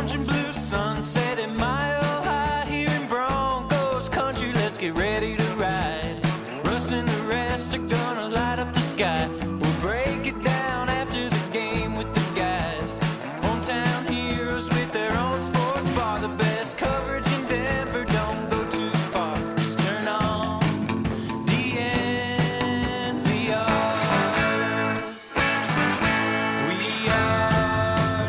orange and blue sunset at Mile High here in Broncos country. Let's get ready to ride. Russ and the rest are gonna light up the sky. We'll break it down after the game with the guys. Hometown heroes with their own sports bar. The best coverage in Denver, don't go too far. Just turn on DNVR. We are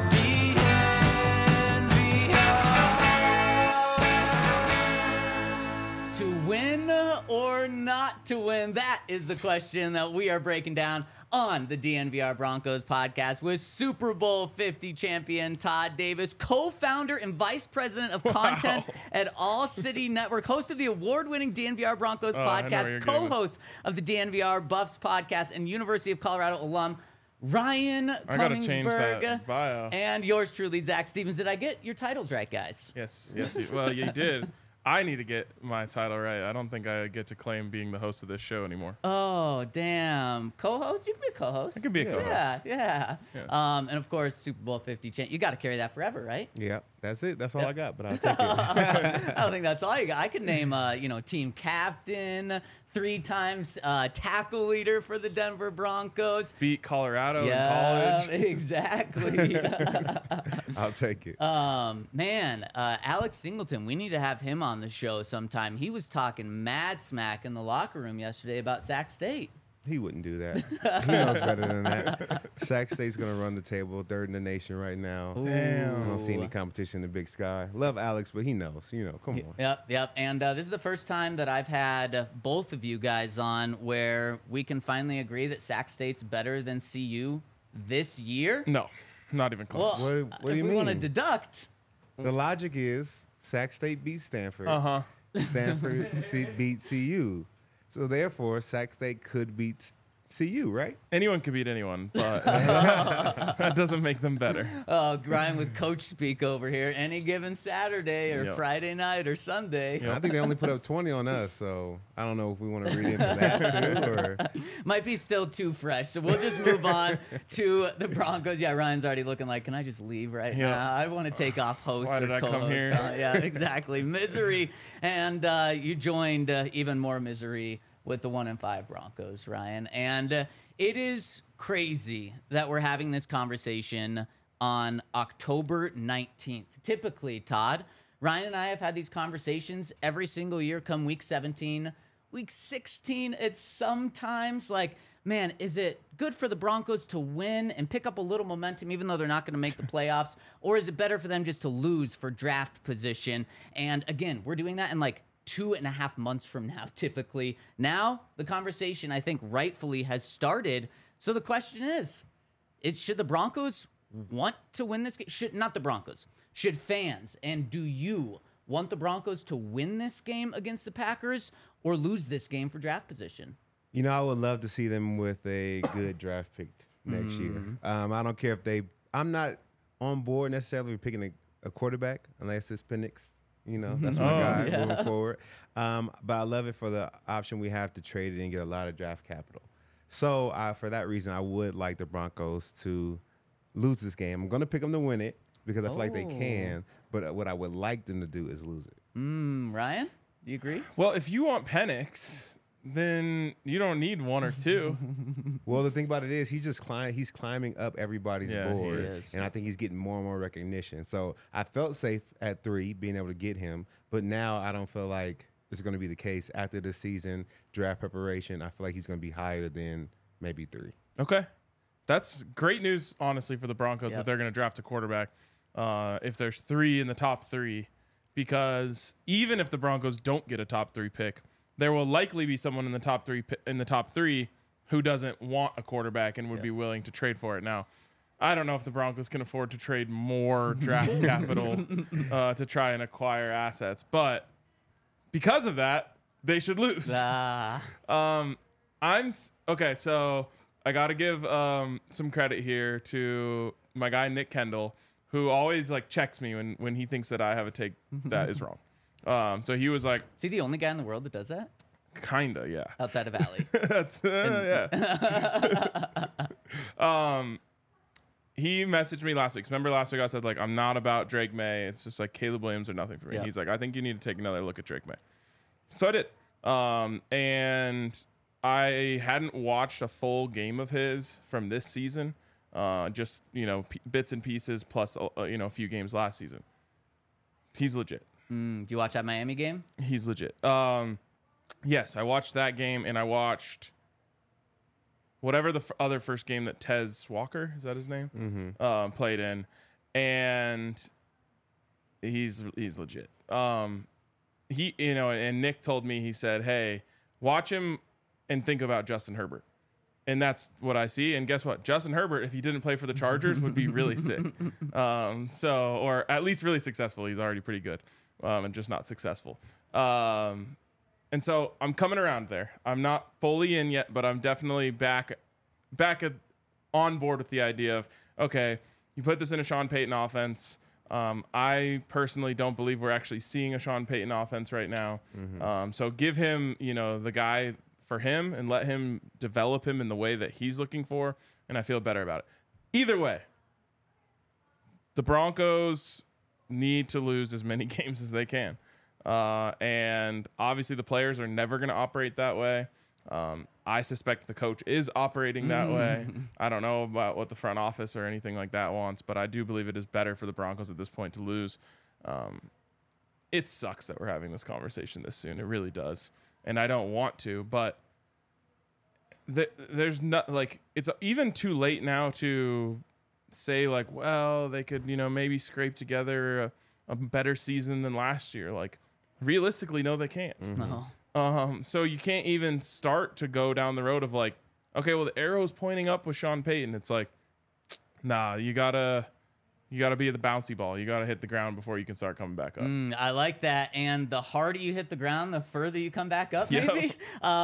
DNVR. To win or not to win? That is the question that we are breaking down on the DNVR Broncos podcast with Super Bowl 50 champion Todd Davis, co-founder and vice president of content at All City Network, host of the award-winning DNVR Broncos podcast, co-host of the DNVR Buffs podcast, and University of Colorado alum Ryan Koenigsberg, bio. and yours truly, Zach Stevens. Did I get your titles right, guys? Yes. Well, you did. I need to get my title right. I don't think I get to claim being the host of this show anymore. Oh, damn. Co-host? You can be a co-host. I could be a co-host. Yeah. And of course, Super Bowl 50 champ. You got to carry that forever, right? Yeah, that's it. That's all I got, but I'll take it. I don't think that's all you got. I could name, team captain, 3 times tackle leader for the Denver Broncos. Beat Colorado in college. Exactly. I'll take it. Alex Singleton, we need to have him on the show sometime. He was talking mad smack in the locker room yesterday about Sac State. He wouldn't do that. He knows better than that. Sac State's going to run the table, 3rd in the nation right now. Damn. I don't see any competition in the Big Sky. Love Alex, but he knows. Come on. Yep. And this is the first time that I've had both of you guys on where we can finally agree that Sac State's better than CU this year. No, not even close. Well, What do you if we mean? want to deduct, The logic is Sac State beats Stanford. Stanford beats CU. So therefore, Sac State could beat CU, right? Anyone could beat anyone, but that doesn't make them better. Grind with coach speak over here. Any given Saturday or Yep. Friday night or Sunday. I think they only put up 20 on us, so I don't know if we want to read into that too. Or Might be still too fresh. So we'll just move on to the Broncos. Yeah, Ryan's already looking like, can I just leave right Yeah. now? I want to take off host Why or did I co-host. come here? Yeah, exactly. Misery. And you joined even more misery with the 1-5 Broncos, Ryan. And it is crazy that we're having this conversation on October 19th. Typically, Todd, Ryan and I have had these conversations every single year come week 17. Week 16, it's sometimes like, man, is it good for the Broncos to win and pick up a little momentum even though they're not going to make the playoffs? Or is it better for them just to lose for draft position? And again, we're doing that in like 2.5 months from now, typically. Now, the conversation, I think, rightfully has started. So the question is should the Broncos want to win this game? Not the Broncos. Should fans, and do you want the Broncos to win this game against the Packers or lose this game for draft position? I would love to see them with a good draft pick next year. I don't care if I'm not on board necessarily with picking a quarterback unless it's Penix. That's my guy moving forward. But I love it for the option we have to trade it and get a lot of draft capital. So for that reason, I would like the Broncos to lose this game. I'm going to pick them to win it because I feel like they can. But what I would like them to do is lose it. Ryan, do you agree? Well, if you want Penix, then you don't need 1 or 2. Well, the thing about it is he's climbing up everybody's board. He is. And I think he's getting more and more recognition. So I felt safe at 3, being able to get him. But now I don't feel like it's going to be the case. After the season, draft preparation, I feel like he's going to be higher than maybe 3. Okay. That's great news, honestly, for the Broncos Yep. that they're going to draft a quarterback if there's 3 in the top 3. Because even if the Broncos don't get a top 3 pick, there will likely be someone in the top 3 who doesn't want a quarterback and would be willing to trade for it. Now, I don't know if the Broncos can afford to trade more draft capital to try and acquire assets, but because of that, they should lose. Okay, so I got to give some credit here to my guy Nick Kendall, who always checks me when he thinks that I have a take that is wrong. So he was like, Is he the only guy in the world that does that? Kinda, yeah. Outside of Allie. That's yeah. he messaged me last week. Remember last week I said, like, I'm not about Drake May. It's just like Caleb Williams or nothing for me. Yeah. He's like, I think you need to take another look at Drake May. So I did. And I hadn't watched a full game of his from this season. Just, bits and pieces plus, a few games last season. He's legit. Do you watch that Miami game? He's legit. Yes, I watched that game, and I watched whatever the other first game that Tez Walker, is that his name? Played in, and he's legit. He, and Nick told me, he said, hey, watch him and think about Justin Herbert. And that's what I see. And guess what? Justin Herbert, if he didn't play for the Chargers, would be really sick. Or at least really successful. He's already pretty good, and just not successful. And so I'm coming around there. I'm not fully in yet, but I'm definitely back on board with the idea of, okay, you put this in a Sean Payton offense. I personally don't believe we're actually seeing a Sean Payton offense right now. So give him, the guy for him and let him develop him in the way that he's looking for, and I feel better about it. Either way, the Broncos need to lose as many games as they can. And obviously the players are never going to operate that way. I suspect the coach is operating that way. I don't know about what the front office or anything like that wants, but I do believe it is better for the Broncos at this point to lose. It sucks that we're having this conversation this soon. It really does. And I don't want to, but there's not, like, it's even too late now to say, like, well, they could, maybe scrape together a better season than last year. Like, realistically, no, they can't. No. So you can't even start to go down the road of, like, okay, well, the arrow's pointing up with Sean Payton. It's like, nah, you gotta be the bouncy ball. You gotta hit the ground before you can start coming back up. I like that. And the harder you hit the ground, the further you come back up, maybe.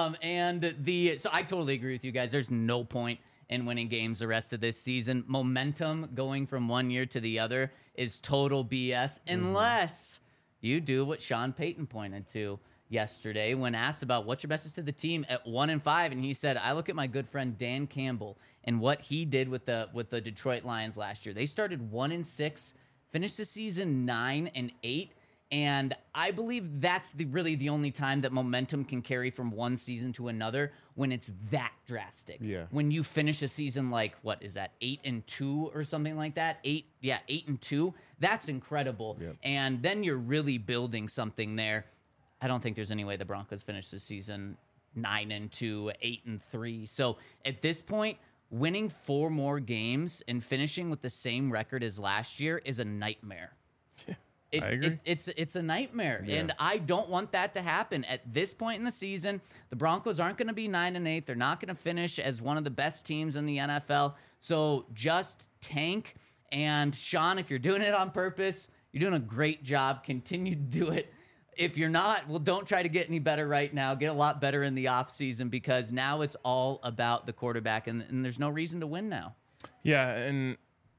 So I totally agree with you guys. There's no point in winning games the rest of this season. Momentum going from one year to the other is total BS unless you do what Sean Payton pointed to yesterday when asked about what's your message to the team at 1-5, and he said, I look at my good friend Dan Campbell and what he did with the Detroit Lions last year. They started 1-6, finished the season 9-8, and I believe that's really the only time that momentum can carry from one season to another, when it's that drastic. Yeah. When you finish a season like, what is that, 8-2 or something like that? 8-2. That's incredible. Yep. And then you're really building something there. I don't think there's any way the Broncos finish the season 9-2, 8-3. So at this point, winning 4 more games and finishing with the same record as last year is a nightmare. I agree. It's a nightmare, Yeah. and I don't want that to happen. At this point in the season, the Broncos aren't going to be 9-8. They're not going to finish as one of the best teams in the NFL. So just tank. And Sean, if you're doing it on purpose, you're doing a great job. Continue to do it. If you're not, well, don't try to get any better right now. Get a lot better in the offseason, because now it's all about the quarterback, and there's no reason to win now. Yeah, and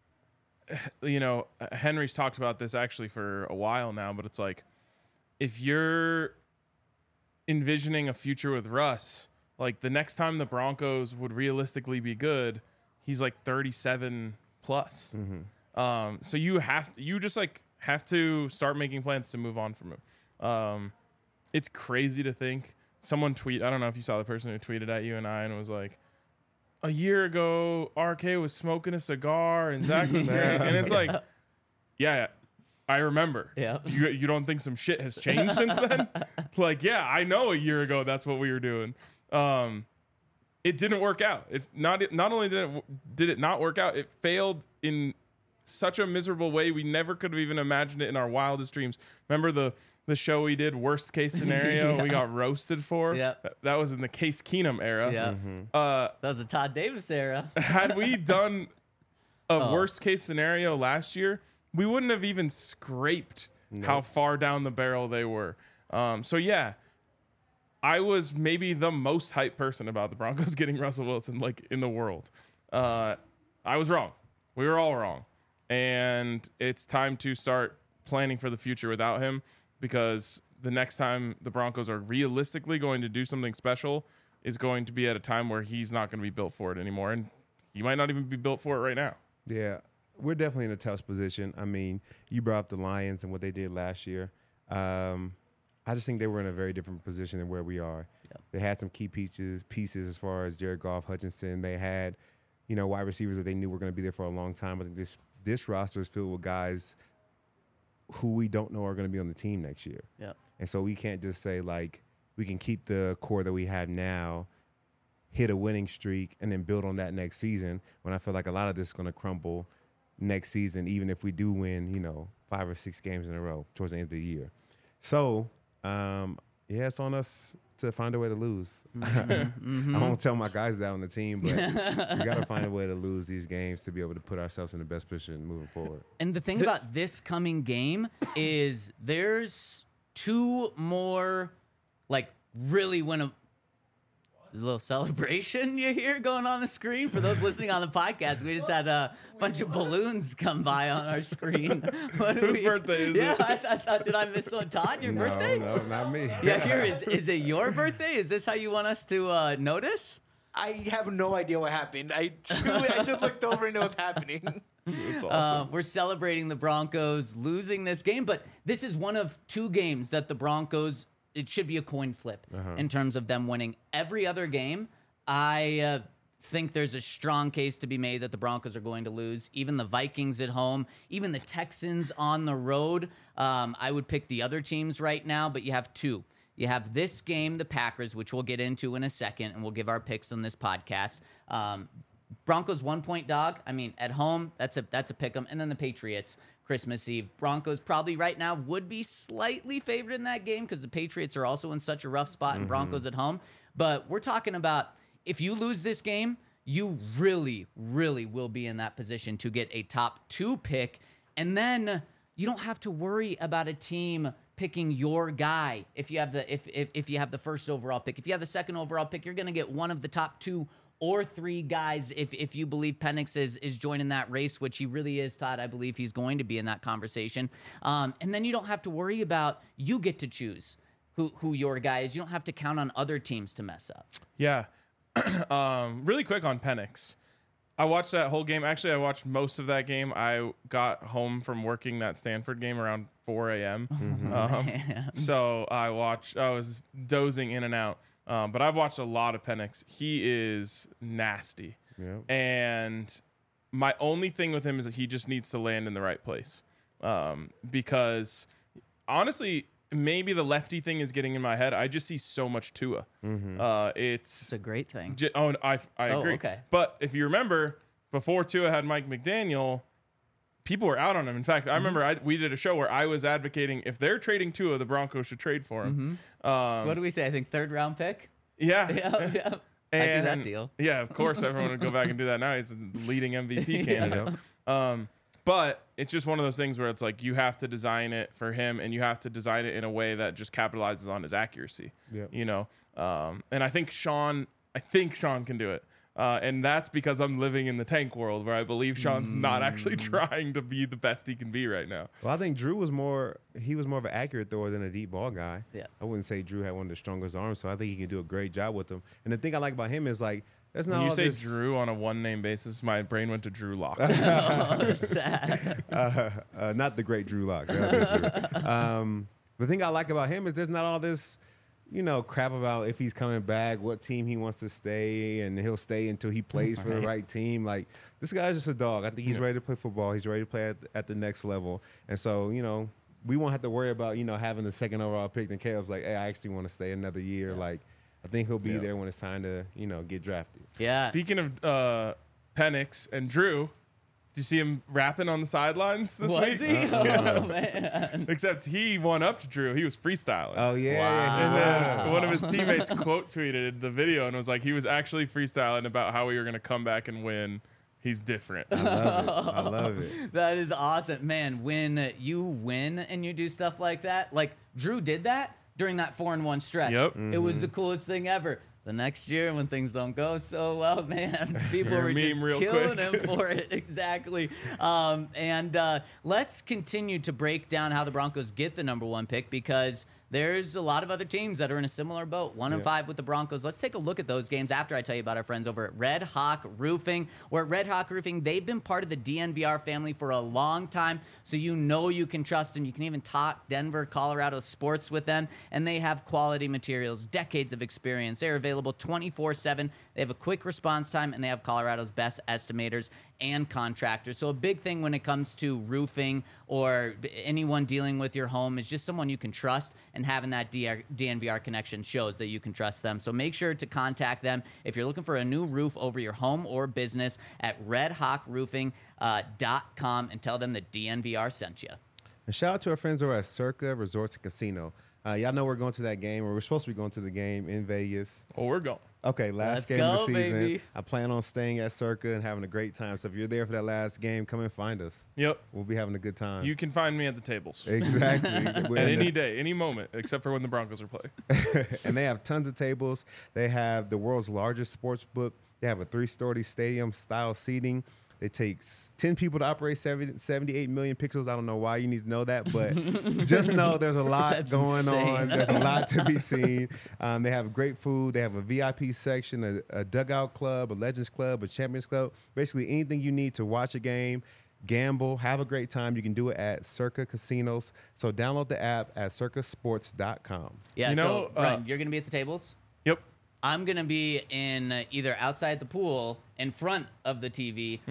Henry's talked about this actually for a while now, but it's like, if you're envisioning a future with Russ, like, the next time the Broncos would realistically be good, he's like 37 plus. So you have to start making plans to move on from him. It's crazy to think someone I don't know if you saw the person who tweeted at you and I and was like, a year ago, RK was smoking a cigar and Zach was great. And it's like, yeah, I remember. Yeah. You don't think some shit has changed since then? Like, yeah, I know a year ago that's what we were doing. It didn't work out. Not only did it not work out, it failed in such a miserable way. We never could have even imagined it in our wildest dreams. Remember the show we did, worst case scenario, Yeah. we got roasted for? Yeah. That was in the Case Keenum era. Yeah. That was a Todd Davis era. Had we done a worst case scenario last year, we wouldn't have even scraped how far down the barrel they were. So yeah, I was maybe the most hyped person about the Broncos getting Russell Wilson, like, in the world. I was wrong. We were all wrong. And it's time to start planning for the future without him, because the next time the Broncos are realistically going to do something special is going to be at a time where he's not going to be built for it anymore. And he might not even be built for it right now. Yeah, we're definitely in a tough position. I mean, you brought up the Lions and what they did last year. I just think they were in a very different position than where we are. Yep. They had some key pieces as far as Jared Goff, Hutchinson. They had, wide receivers that they knew were going to be there for a long time. I think this roster is filled with guys who we don't know are going to be on the team next year. Yep. And so we can't just say, like, we can keep the core that we have now, hit a winning streak, and then build on that next season, when I feel like a lot of this is going to crumble next season, even if we do win, 5 or 6 games in a row towards the end of the year. So, it's on us to find a way to lose. I won't tell my guys that on the team, but we got to find a way to lose these games to be able to put ourselves in the best position moving forward. And the thing about this coming game is there's 2 more, like, really little celebration you hear going on the screen. For those listening on the podcast, we just had a bunch of balloons come by on our screen. Whose birthday is it? Yeah, I thought, did I miss one? Todd, your birthday? No, not me. Yeah, here is it your birthday? Is this how you want us to notice? I have no idea what happened. I just looked over and know what's happening. That's awesome. We're celebrating the Broncos losing this game, but this is one of 2 games that the Broncos, it should be a coin flip in terms of them winning. Every other game, I think there's a strong case to be made that the Broncos are going to lose. Even the Vikings at home, even the Texans on the road. I would pick the other teams right now, but you have 2. You have this game, the Packers, which we'll get into in a second, and we'll give our picks on this podcast. Broncos 1-point dog. I mean, at home, that's a pick 'em. And then the Patriots, Christmas Eve. Broncos probably right now would be slightly favored in that game because the Patriots are also in such a rough spot and Broncos at home. But we're talking about, if you lose this game, you really, really will be in that position to get a top 2 pick. And then you don't have to worry about a team picking your guy. If you have if you have the first overall pick, if you have the second overall pick, you're going to get one of the top 2 or 3 guys if you believe Penix is joining that race, which he really is, Todd. I believe he's going to be in that conversation. And then you don't have to worry about, you get to choose who your guy is. You don't have to count on other teams to mess up. Yeah. Really quick on Penix. I watched that whole game. Actually, I watched most of that game. I got home from working that Stanford game around 4 a.m. So I was dozing in and out. But I've watched a lot of Penix. He is nasty. Yep. And my only thing with him is that he just needs to land in the right place. Because honestly, maybe the lefty thing is getting in my head. I just see so much Tua. It's a great thing. I agree. Okay. But if you remember, before Tua had Mike McDaniel, people were out on him. In fact, I remember we did a show where I was advocating, if they're trading Tua, the Broncos should trade for him. What do we say? I think 3rd round pick. Yeah. Yeah. I do that deal. Yeah, of course, everyone would go back and do that now. He's a leading MVP candidate. But it's just one of those things where it's like, you have to design it for him, and you have to design it in a way that just capitalizes on his accuracy. Yep. And I think Sean can do it. And that's because I'm living in the tank world, where I believe Sean's not actually trying to be the best he can be right now. Well, I think Drew was more of an accurate thrower than a deep ball guy. Yeah. I wouldn't say Drew had one of the strongest arms, so I think he can do a great job with them. And the thing I like about him is, like, that's not When you all say this, Drew on a one-name basis, my brain went to Drew Lock. Oh, sad. not the great Drew Lock. The thing I like about him is there's not all this, crap about if he's coming back, what team he wants to stay, and he'll stay until he plays for the right team. Like, this guy's just a dog. I think he's ready to play football. He's ready to play at the next level. And so, we won't have to worry about, having the 2nd overall pick. Then Caleb's like, hey, I actually want to stay another year. Like, I think he'll be there when it's time to, get drafted. Yeah. Speaking of Penix and Drew, did you see him rapping on the sidelines this week? Was he? Oh, man. Except he won up to Drew. He was freestyling. Oh, yeah. Wow. And then one of his teammates quote tweeted the video and was like, he was actually freestyling about how we were going to come back and win. He's different. I love it. That is awesome. Man, when you win and you do stuff like that, like Drew did that during that 4-1 stretch. Yep. It was the coolest thing ever. The next year, when things don't go so well, man, people were just killing him for it. Exactly. And let's continue to break down how the Broncos get the number 1 pick, because there's a lot of other teams that are in a similar boat. 1-5 with the Broncos. Let's take a look at those games after I tell you about our friends over at Red Hawk Roofing. Where at Red Hawk Roofing, they've been part of the DNVR family for a long time, so you know you can trust them. You can even talk Denver, Colorado sports with them, and they have quality materials, decades of experience. They're available 24/7. They have a quick response time, and they have Colorado's best estimators and contractors. So a big thing when it comes to roofing or anyone dealing with your home is just someone you can trust, and having that DNVR connection shows that you can trust them. So make sure to contact them if you're looking for a new roof over your home or business at redhawkroofing.com and tell them that DNVR sent you. And shout out to our friends over at Circa Resorts and Casino. Y'all know we're going to that game, or we're supposed to be going to the game in Vegas. Well, we're going. Okay, Let's game of go, the season. baby. I plan on staying at Circa and having a great time. So if you're there for that last game, come and find us. Yep. We'll be having a good time. You can find me at the tables. Exactly. We're At in the- any day, any moment, except for when the Broncos are playing. and they have tons of tables. They have the world's largest sports book. They have a 3-story stadium style seating. It takes 10 people to operate 78 million pixels. I don't know why you need to know that, but just know there's a lot That's going insane. on. There's a lot to be seen. They have great food. They have a VIP section, a dugout club, a Legends Club, a Champions Club. Basically anything you need to watch a game, gamble, have a great time. You can do it at Circa Casinos. So download the app at circasports.com. Yeah, You know, so, Ryan, you're going to be at the tables? Yep. I'm going to be in either outside the pool in front of the TV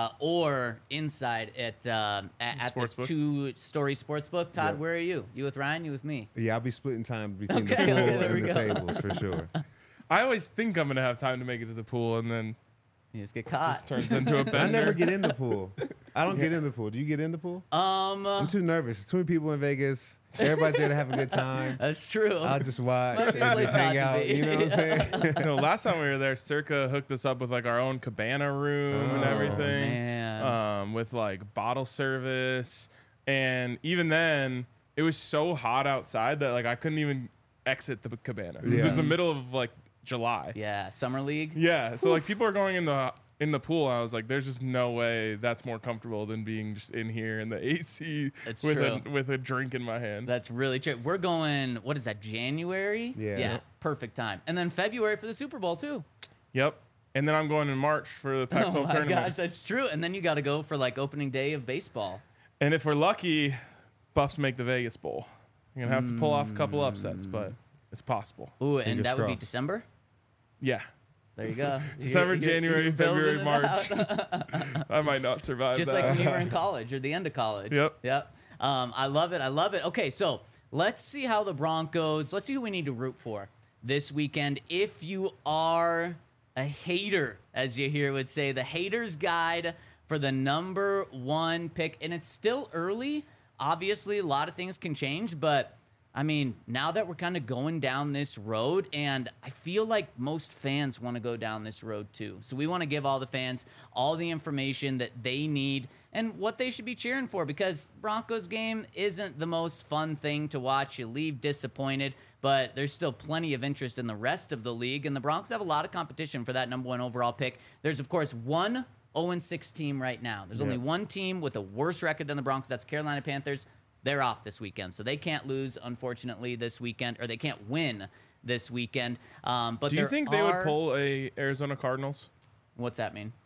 or inside at the Sportsbook. 2-story sportsbook. Todd, Yeah. where are you? You with Ryan? You with me? Yeah, I'll be splitting time between Okay, the pool okay, there we and the go. tables for sure. I always think I'm going to have time to make it to the pool, and then You just get it caught. just turns into a bender. I never get in the pool. I don't get in the pool. Do you get in the pool? I'm too nervous. There's too many people in Vegas. Everybody's there to have a good time. That's true. I'll just watch Might and be a place just hang not to out. be. You know what I'm saying? You know, last time we were there, Circa hooked us up with like our own cabana room and Oh, everything. man. With like bottle service. And even then, it was so hot outside that like I couldn't even exit the cabana. This Yeah. was the middle of like July. Yeah, Summer League. Yeah. So like people are going in the pool. I was like, there's just no way that's more comfortable than being just in here in the AC It's with true. with a drink in my hand. That's really true. We're going, what is that, January? Yeah. Yeah, perfect time. And then February for the Super Bowl, too. Yep. And then I'm going in March for the Pac-12 Oh, my tournament. gosh, that's true. And then you got to go for, like, opening day of baseball. And if we're lucky, Buffs make the Vegas Bowl. You're gonna have to pull off a couple upsets, but it's possible. Ooh, and Fingers that would be crossed. December? Yeah. There you go. December, You're January, building February, it March. out. I might not survive Just that. like when you were in college or the end of college. Yep. I love it. I love it. Okay, so let's see how the Broncos, let's see who we need to root for this weekend. If you are a hater, as you hear would say, the hater's guide for the number 1 pick. And it's still early. Obviously, a lot of things can change, but I mean, now that we're kind of going down this road, and I feel like most fans want to go down this road too. So we want to give all the fans all the information that they need and what they should be cheering for, because Broncos game isn't the most fun thing to watch. You leave disappointed, but there's still plenty of interest in the rest of the league, and the Broncos have a lot of competition for that number 1 overall pick. There's, of course, one 0-6 team right now. There's only one team with a worse record than the Broncos. That's Carolina Panthers. They're off this weekend, so they can't lose, unfortunately, this weekend, or they can't win this weekend. But Do you there think they would are- pull a Arizona Cardinals What's that mean?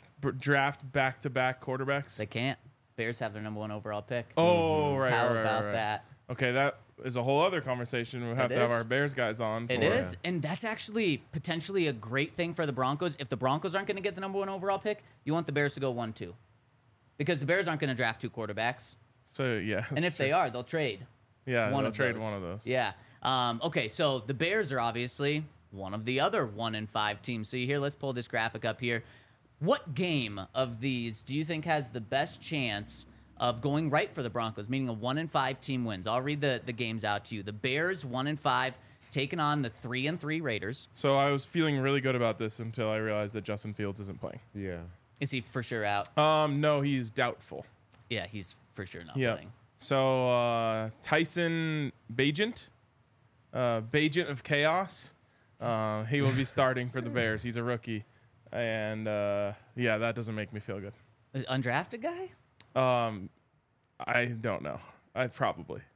draft back-to-back quarterbacks? They can't. Bears have their number 1 overall pick. Oh, right, How right, right, about right. that? Okay, that is a whole other conversation. We'll have It to have is. our Bears guys on. It for. is, and that's actually potentially a great thing for the Broncos. If the Broncos aren't going to get the number 1 overall pick, you want the Bears to go 1-2, because the Bears aren't going to draft 2 quarterbacks, So yeah, and if they are, they'll trade. yeah, one they'll of trade those. one of those. Yeah. Okay, so the Bears are obviously one of the other 1-5 teams. So here, let's pull this graphic up here. What game of these do you think has the best chance of going right for the Broncos, meaning a 1-5 team wins? I'll read the games out to you. The Bears 1-5 taking on the 3-3 Raiders. So I was feeling really good about this until I realized that Justin Fields isn't playing. Yeah. Is he for sure out? No, he's doubtful. Yeah, he's for sure not Yeah. playing. So Tyson Bagent, Bagent of Chaos, he will be starting for the Bears. He's a rookie, and yeah, that doesn't make me feel good. Undrafted guy? I don't know. I probably.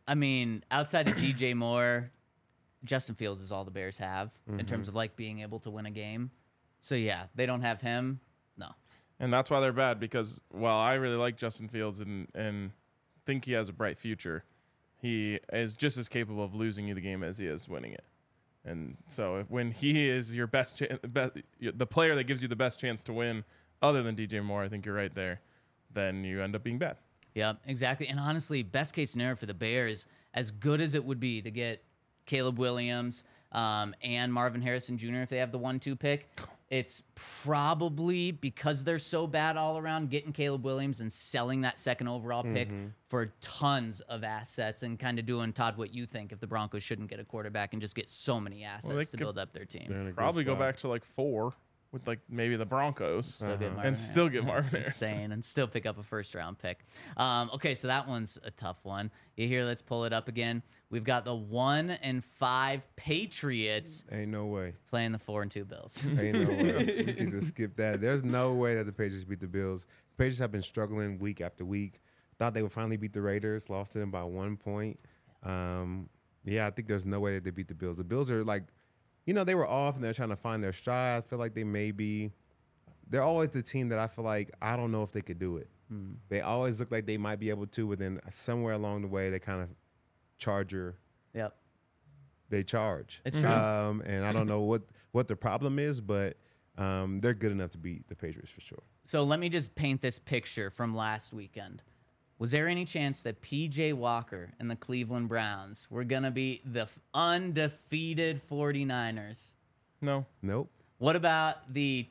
I mean, outside of DJ Moore, Justin Fields is all the Bears have in terms of like being able to win a game. So yeah, they don't have him. No. And that's why they're bad, because while I really like Justin Fields and think he has a bright future, he is just as capable of losing you the game as he is winning it. And so when he is your the player that gives you the best chance to win, other than DJ Moore, I think you're right there, then you end up being bad. Yeah, exactly. And honestly, best case scenario for the Bears, as good as it would be to get Caleb Williams and Marvin Harrison Jr. if they have the 1-2 pick, it's probably because they're so bad all around, getting Caleb Williams and selling that second overall pick for tons of assets and kind of doing, Todd, what you think if the Broncos shouldn't get a quarterback and just get so many assets to build up their They're team. in a good Probably go spot. back to like 4 with like maybe the Broncos Still get Marvin and still get Harrison. Marvin That's Harrison. insane, and still pick up a first-round pick. Okay, so that one's a tough one. You hear? Let's pull it up again. We've got the 1-5 Patriots Ain't no way. playing the 4-2 Bills. Ain't no way. We can just skip that. There's no way that the Patriots beat the Bills. The Patriots have been struggling week after week. Thought they would finally beat the Raiders. Lost to them by 1 point. Yeah, I think there's no way that they beat the Bills. The Bills are like, they were off and they're trying to find their stride. I feel like they're always the team that I feel like I don't know if they could do it. They always look like they might be able to, but then somewhere along the way they kind of Yep. they charge. It's true. And I don't know what the problem is, but they're good enough to beat the Patriots for sure. So let me just paint this picture from last weekend. Was there any chance that P.J. Walker and the Cleveland Browns were going to beat the undefeated 49ers? No. Nope. What about the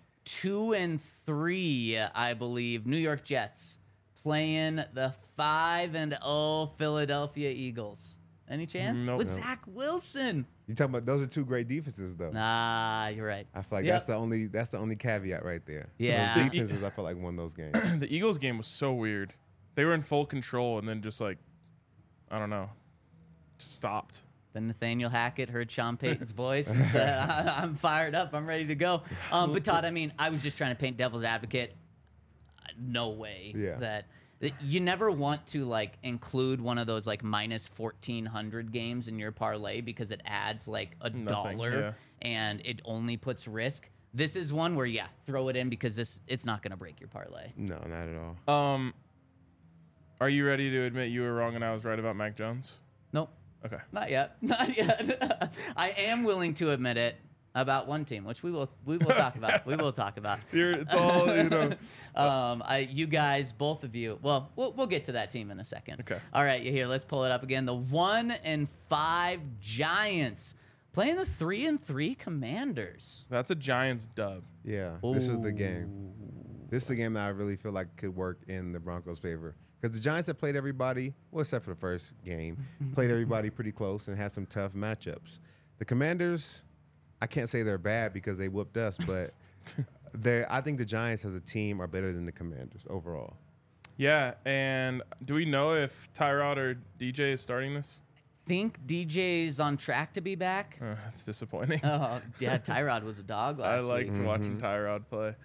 2-3, I believe, New York Jets playing the 5-0 Philadelphia Eagles? Any chance? Nope. With Nope. Zach Wilson. You talking about those are two great defenses though. Nah, you're right. I feel like Yep. that's the only caveat right there. Yeah. Those defenses I feel like won those games. The Eagles game was so weird. They were in full control and then just like, I don't know, just stopped. Then Nathaniel Hackett heard Sean Payton's voice and said, I'm fired up. I'm ready to go. But Todd, I mean, I was just trying to paint devil's advocate. No way Yeah. that you never want to like include one of those like minus 1,400 games in your parlay because it adds like Nothing, $1 yeah. and it only puts risk. This is one where, yeah, throw it in because it's not going to break your parlay. No, not at all. Are you ready to admit you were wrong and I was right about Mac Jones? Nope. Okay. Not yet. Not yet. I am willing to admit it about one team, which we will talk about. We will talk about. It's all, You guys, both of you. Well, we'll get to that team in a second. Okay. All right, here. Let's pull it up again. The 1-5 Giants playing the 3-3 Commanders. That's a Giants dub. Yeah, this is the game. This is the game that I really feel like could work in the Broncos' favor. Because the Giants have played everybody, well, except for the first game, played everybody pretty close and had some tough matchups. The Commanders, I can't say they're bad because they whooped us, but I think the Giants as a team are better than the Commanders overall. Yeah, and do we know if Tyrod or DJ is starting this? Think DJ's on track to be back? That's disappointing. Oh, yeah, Tyrod was a dog last I liked week. watching Tyrod play.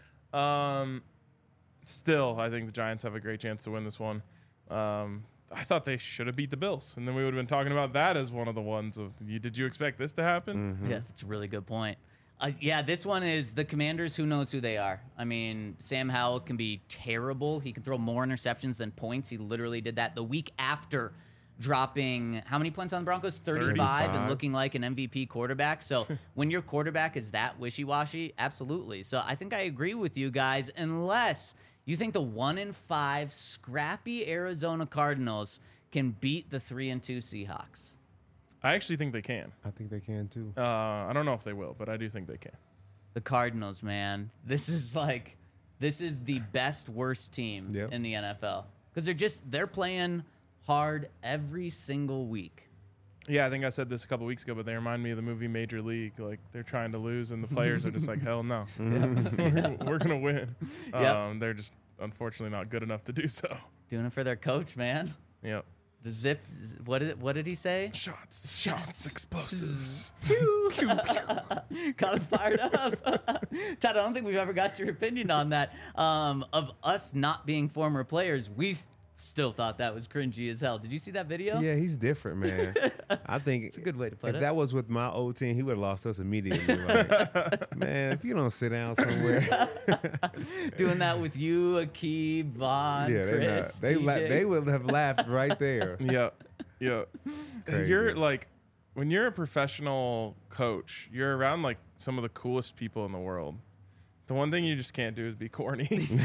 Still, I think the Giants have a great chance to win this one. I thought they should have beat the Bills, and then we would have been talking about that as one of the ones of, did you expect this to happen? Yeah, that's a really good point. Yeah, this one is the Commanders. Who knows who they are? I mean, Sam Howell can be terrible. He can throw more interceptions than points. He literally did that the week after dropping how many points on the Broncos? 35 and looking like an MVP quarterback. So when your quarterback is that wishy-washy, absolutely. So I think I agree with you guys, unless you think the 1-5 scrappy Arizona Cardinals can beat the 3-2 Seahawks. I actually think they can. I think they can too. I don't know if they will, but I do think they can. The Cardinals, man. This is the best worst team Yep. in the NFL because they're playing hard every single week. Yeah, I think I said this a couple weeks ago, but they remind me of the movie Major League. Like, they're trying to lose, and the players are just like, hell no. We're going to win. Yep. They're just, unfortunately, not good enough to do so. Doing it for their coach, man. Yep. The zip. What did he say? Shots, explosives. Got him fired up. Todd, I don't think we've ever got your opinion on that. Of us not being former players, we still thought that was cringy as hell. Did you see that video? Yeah, he's different, man. I think It's a good way to put if it. that was with my old team, he would have lost us immediately. Like, man, if you don't sit down somewhere, Doing that with you, Akib, Vaughn, yeah, Chris, they TJ. would have laughed right there. Yeah, yeah. Crazy. You're like, when you're a professional coach, you're around like some of the coolest people in the world. The one thing you just can't do is be corny.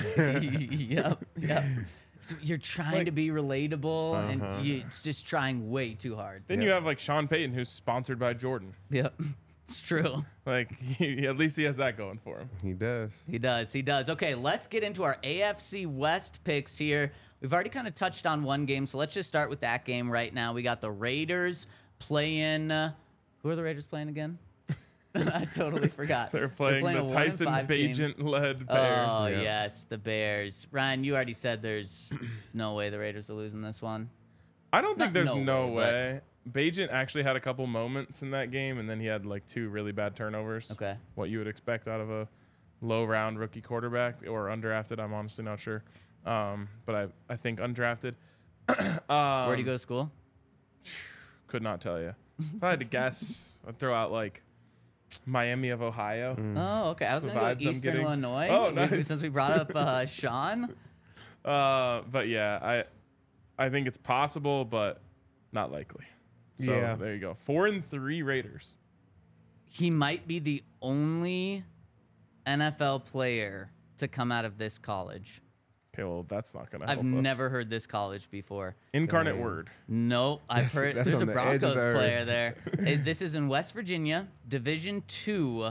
Yep. So you're trying to be relatable, Uh-huh. and you're just trying way too hard. Then you have like Sean Payton, who's sponsored by Jordan. Yep, it's true. Like, at least he has that going for him. He does. He does. He does. Okay, let's get into our AFC West picks here. We've already kind of touched on one game, so let's just start with that game right now. We got the Raiders playing. Who are the Raiders playing again? I totally forgot. They're playing a the 1-5 Tyson team. Bagent-led Bears. Oh, Yeah. yes, the Bears. Ryan, you already said there's no way the Raiders are losing this one. I don't think Not there's no no way, way. Bagent actually had a couple moments in that game, and then he had like 2 really bad turnovers. Okay. What you would expect out of a low-round rookie quarterback or undrafted, I'm honestly not sure. But I think undrafted. Where do you go to school? Could not tell you. If I had to guess, I'd throw out like Miami of Ohio. Oh, okay. I was The going to vibes go I'm Eastern getting. Illinois. Oh, nice. Since we brought up Sean. But yeah, I think it's possible, but not likely. So Yeah. there you go. 4-3 Raiders. He might be the only NFL player to come out of this college. Okay, well that's not gonna help I've us. never heard this college before. Incarnate Dang. Word. Nope, I've heard that's there's a on the edge of Broncos the earth. player there. This is in West Virginia, Division II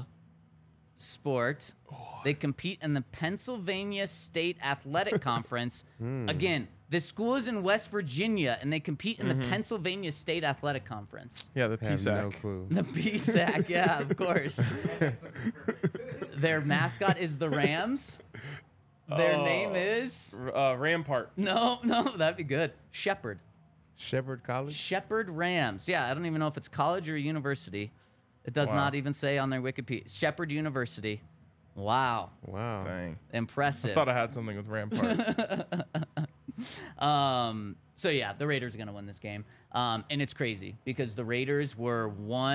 sport. They compete in the Pennsylvania State Athletic Conference. Again, the school is in West Virginia, and they compete in the Pennsylvania State Athletic Conference. Yeah, the I have no PSAC. clue. The PSAC, yeah, of course. Their mascot is the Rams. Their name is Rampart. no, that'd be good. Shepherd. Shepherd College. Shepherd Rams. Yeah, I don't even know if it's college or university. It does Wow. not even say on their Wikipedia. Shepherd University. Wow, Wow. Dang. impressive. I thought I had something with Rampart. So yeah, the Raiders are gonna win this game, and it's crazy because the Raiders were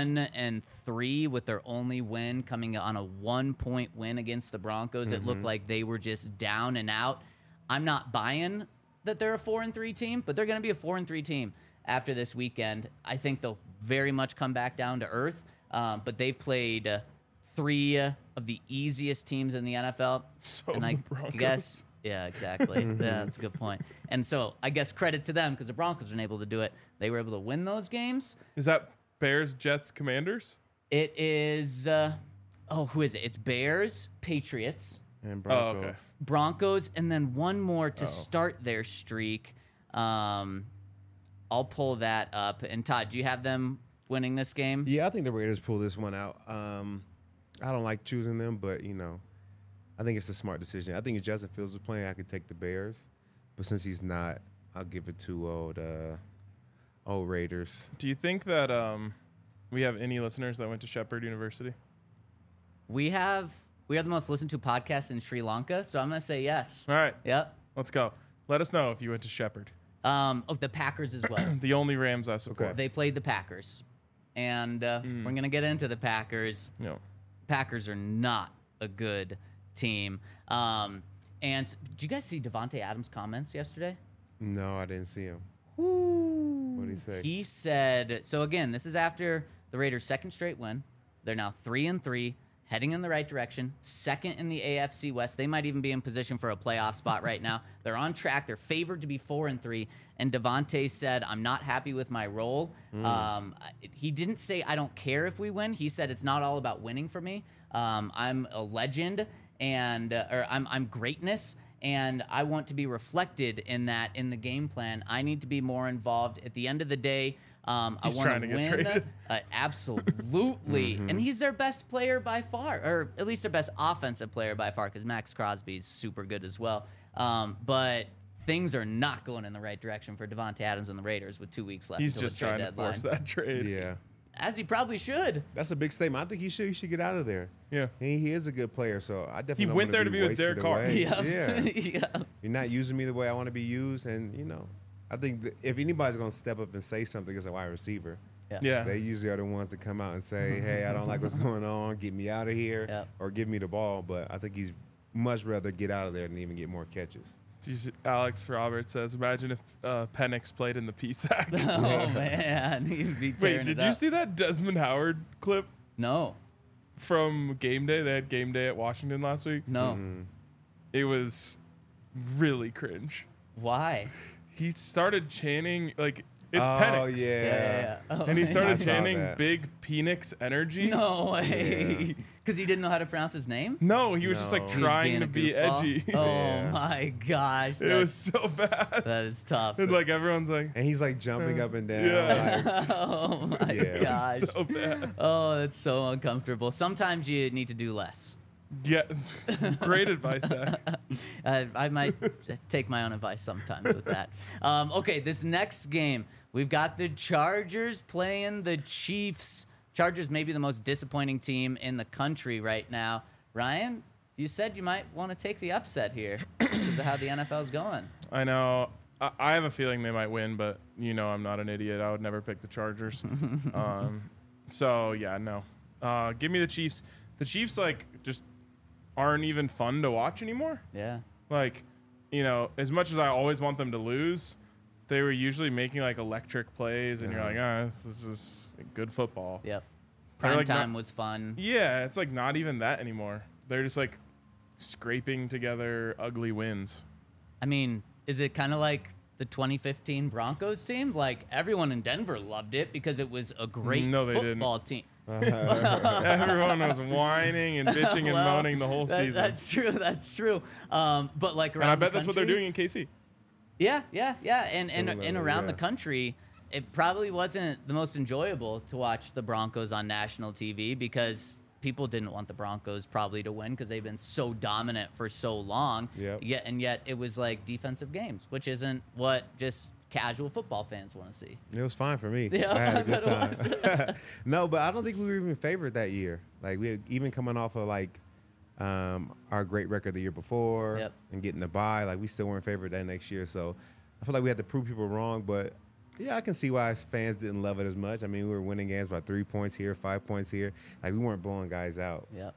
1-3 with their only win coming on a 1-point win against the Broncos. It looked like they were just down and out. I'm not buying that they're a 4-3 team, but they're gonna be a 4-3 team after this weekend. I think they'll very much come back down to earth, but they've played 3 of the easiest teams in the NFL, So and have I the Broncos. guess. Yeah, exactly. Yeah, that's a good point. And so I guess credit to them because the Broncos were able to do it. They were able to win those games. Is that Bears, Jets, Commanders? It is, who is it? It's Bears, Patriots, And Oh, Broncos. okay. Broncos, and then one more to start their streak. I'll pull that up. And Todd, do you have them winning this game? Yeah, I think the Raiders pull this one out. I don't like choosing them, but I think it's a smart decision. I think if Justin Fields was playing, I could take the Bears, but since he's not, I'll give it to old Raiders. Do you think that we have any listeners that went to Shepherd University? We have the most listened to podcast in Sri Lanka, so I'm gonna say yes. All right, Yep. let's go. Let us know if you went to Shepherd. The Packers as well. The only Rams I support. Okay. They played the Packers, and we're gonna get into the Packers. You know, Packers are not a good team. Did you guys see Devontae Adams' comments yesterday? No, I didn't see him. What did he say? He said, so again, this is after the Raiders' second straight win. They're now 3-3, heading in the right direction, second in the AFC West. They might even be in position for a playoff spot right now. They're on track. They're favored to be 4-3. And Devontae said, I'm not happy with my role. He didn't say, I don't care if we win. He said, it's not all about winning for me. I'm a legend, and or I'm greatness, and I want to be reflected in that in the game plan. I need to be more involved. At the end of the day, I He's want trying to to get win. traded. Absolutely, and he's their best player by far, or at least their best offensive player by far, because Max Crosby is super good as well. But things are not going in the right direction for Devontae Adams and the Raiders with 2 weeks left. he's until just the trade trying to deadline. force that trade. Yeah. as he probably should. That's a big statement. I think he should get out of there. Yeah. He is a good player, so I definitely He don't went wanna there to be with wasted Derek Carr. away. Yeah. Yeah. Yeah. You're not using me the way I want to be used, and I think that if anybody's gonna step up and say something as a wide receiver, Yeah. they usually are the ones that come out and say, "Hey, I don't like what's going on. Get me out of here, Yeah. or give me the ball." But I think he's much rather get out of there than even get more catches. Alex Roberts says, imagine if Penix played in the PSAC. Oh man, he'd be tearing Wait, did it you up. see that Desmond Howard clip No, from game day? They had game day at Washington last week. no. Mm-hmm. It was really cringe. Why? He started chanting like it's Oh Penix. yeah. Oh, And he I started saw chanting that. big Penix energy. No way. Because he didn't know how to pronounce his name? No, he was just like No. He was trying being to a be goofball? edgy. Oh Yeah. my gosh. It was so bad. That is tough. And like everyone's like, And he's like jumping up and down. Yeah. Like, Oh my Yeah. gosh. so bad. Oh, that's so uncomfortable. Sometimes you need to do less. Yeah, great advice, Zach. I might take my own advice sometimes with that. Okay, this next game, we've got the Chargers playing the Chiefs. Chargers may be the most disappointing team in the country right now. Ryan, you said you might want to take the upset here because of how the NFL's going. I know. I have a feeling they might win, but I'm not an idiot. I would never pick the Chargers. So yeah, no. Give me the Chiefs. The Chiefs just aren't even fun to watch anymore. Yeah. As much as I always want them to lose, they were usually making electric plays, and you're like, this is good football. Yep. They're, Prime not- time was fun. Yeah, it's not even that anymore. They're just scraping together ugly wins. I mean, is it kind of like the 2015 Broncos team? Like, everyone in Denver loved it because it was a great No, they didn't. football team. Everyone was whining and bitching and Well, moaning the whole season. That's true. That's true. But around and I bet the that's what they're country- doing in KC. Yeah. And Similarly, around the yeah. country, it probably wasn't the most enjoyable to watch the Broncos on national TV because people didn't want the Broncos probably to win because they've been so dominant for so long. Yep. Yet it was like defensive games, which isn't what just casual football fans want to see. it was fine for me. Yeah, I had a good I bet time. No, but I don't think we were even favored that year. We had, even coming off of our great record the year before Yep. and getting the bye, we still weren't favored that next year. So I feel like we had to prove people wrong. But yeah, I can see why fans didn't love it as much. I mean, we were winning games by 3 points here, 5 points here. We weren't blowing guys out. Yep.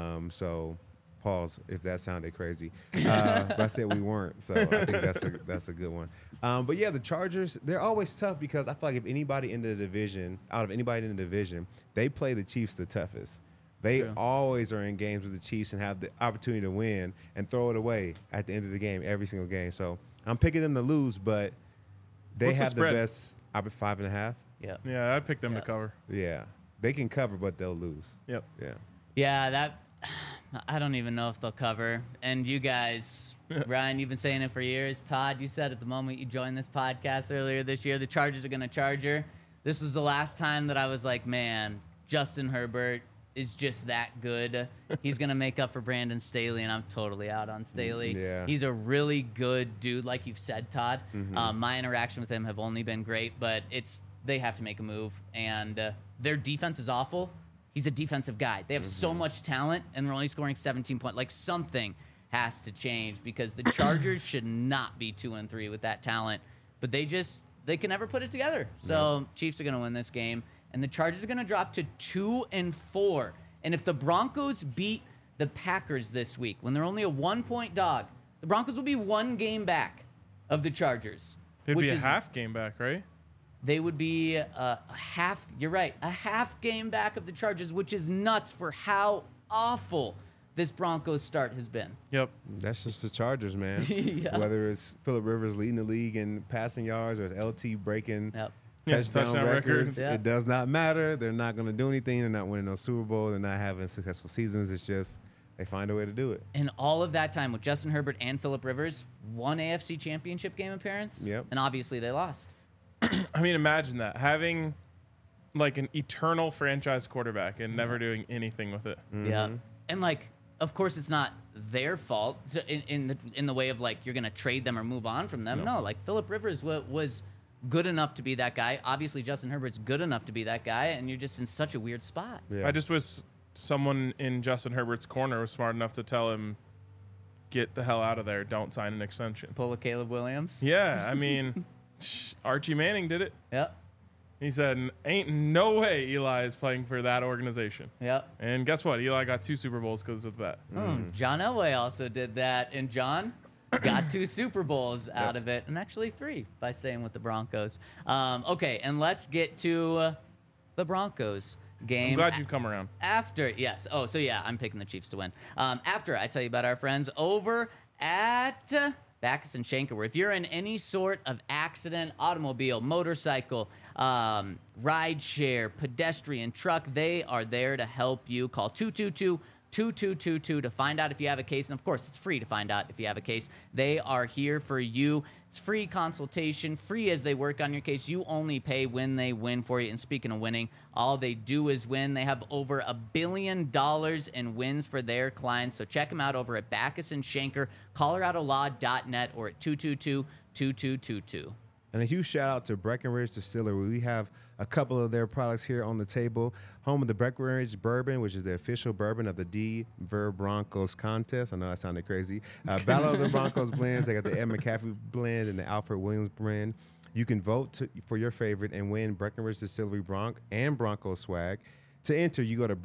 So pause if that sounded crazy. But I said we weren't. So I think that's a good one. But yeah, the Chargers, they're always tough because I feel like if anybody in the division, out of anybody in the division, they play the Chiefs the toughest. They True. always are in games with the Chiefs and have the opportunity to win and throw it away at the end of the game, every single game. So I'm picking them to lose, but they What's the have the spread? best. I bet 5.5. Yep. Yeah, I picked them Yeah. to cover. Yeah, they can cover, but they'll lose. Yep. Yeah. Yeah, that I don't even know if they'll cover. And you guys, Ryan, you've been saying it for years. Todd, you said at the moment you joined this podcast earlier this year, the Chargers are going to Charger. This was the last time that I was like, man, Justin Herbert is just that good. He's going to make up for Brandon Staley, and I'm totally out on Staley. Yeah. He's a really good dude, like you've said, Todd. My interaction with him have only been great, but they have to make a move, and their defense is awful. He's a defensive guy. They have so much talent, and they're only scoring 17 points. Something has to change because the Chargers should not be 2-3 with that talent, but they can never put it together. So Chiefs are going to win this game, and the Chargers are going to drop to 2-4. And if the Broncos beat the Packers this week, when they're only a 1-point dog, the Broncos will be one game back of the Chargers. It'd which be a is- half game back, right? They would be a half. You're right, a half game back of the Chargers, which is nuts for how awful this Broncos start has been. Yep. That's just the Chargers, man. Yeah. Whether it's Phillip Rivers leading the league in passing yards or it's LT breaking Yep. Yeah, touchdown touchdown records, records. Yeah. it does not matter. They're not going to do anything. They're not winning no Super Bowl. They're not having successful seasons. It's just they find a way to do it. And all of that time with Justin Herbert and Phillip Rivers, one AFC Championship game appearance. Yep. And obviously they lost. I mean, imagine that. Having an eternal franchise quarterback and never doing anything with it. Yeah. And of course it's not their fault in the way of you're going to trade them or move on from them. No, Phillip Rivers was good enough to be that guy. Obviously, Justin Herbert's good enough to be that guy, and you're just in such a weird spot. Yeah. I just wish someone in Justin Herbert's corner was smart enough to tell him, get the hell out of there. Don't sign an extension. Pull a Caleb Williams. Yeah, I mean, Archie Manning did it. Yep. He said, ain't no way Eli is playing for that organization. Yep. And guess what? Eli got 2 Super Bowls because of that. John Elway also did that, and John got 2 Super Bowls out of it, and actually 3 by staying with the Broncos. Okay, and let's get to the Broncos game. I'm glad you've come around. After, yes. Oh, so yeah, I'm picking the Chiefs to win. After I tell you about our friends over at Backus and Schenker, where if you're in any sort of accident, automobile, motorcycle, ride share, pedestrian, truck, they are there to help you. Call 222-2222 to find out if you have a case. And of course, it's free to find out if you have a case. They are here for you. It's free consultation, free as they work on your case. You only pay when they win for you. And speaking of winning, all they do is win. They have over $1 billion in wins for their clients. So check them out over at Backus and Schenker, coloradolaw.net, or at 222-2222. And a huge shout out to Breckenridge Distillery. We have a couple of their products here on the table. Home of the Breckenridge Bourbon, which is the official bourbon of the Denver Broncos contest. I know that sounded crazy. Battle of the Broncos blends. They got the Ed McCaffrey blend and the Alfred Williams blend. You can vote for your favorite and win Breckenridge Distillery Bronc and Broncos swag. To enter, you go to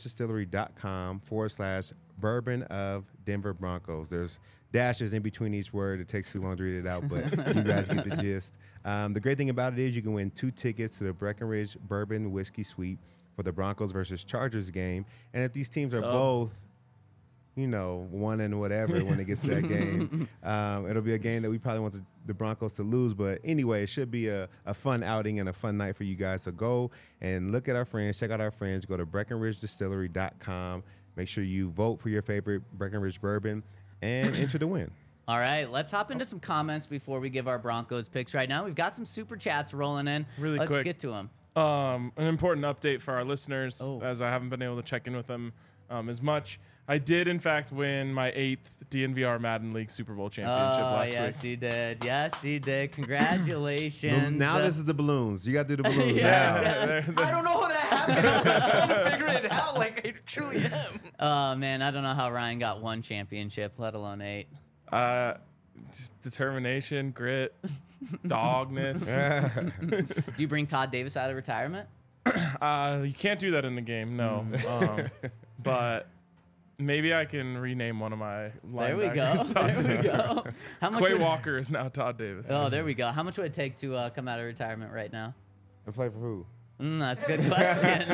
BreckenridgeDistillery.com/bourbon of Denver Broncos. There's dashes in between each word. It takes too long to read it out, but you guys get the gist. The great thing about it is you can win 2 tickets to the Breckenridge Bourbon Whiskey Suite for the Broncos versus Chargers game. And if these teams are both, you know, one and whatever when it gets to that game, it'll be a game that we probably want the Broncos to lose. But anyway, it should be a fun outing and a fun night for you guys. So go and look at our friends, check out our friends. Go to BreckenridgeDistillery.com. Make sure you vote for your favorite Breckenridge bourbon and enter to win. All right, let's hop into some comments before we give our Broncos picks right now. We've got some super chats rolling in. Really let's quick. get to them. An important update for our listeners, Oh. as I haven't been able to check in with them as much. I did, in fact, win my 8th DNVR Madden League Super Bowl championship last yes, week. you did. Yes, you did. Congratulations. Now this is the balloons. You got to do the balloons Yes, now. yes. I don't know how that happened. I'm trying to figure it out. Like, I truly am. Oh, man, I don't know how Ryan got 1 championship, let alone 8. Just determination, grit, dogness. Do you bring Todd Davis out of retirement? You can't do that in the game, no. But maybe I can rename one of my There we go. linebackers. There we go. How much Quay would- Walker is now Todd Davis. Oh, there we go. How much would it take to come out of retirement right now? And play for who? That's a good question.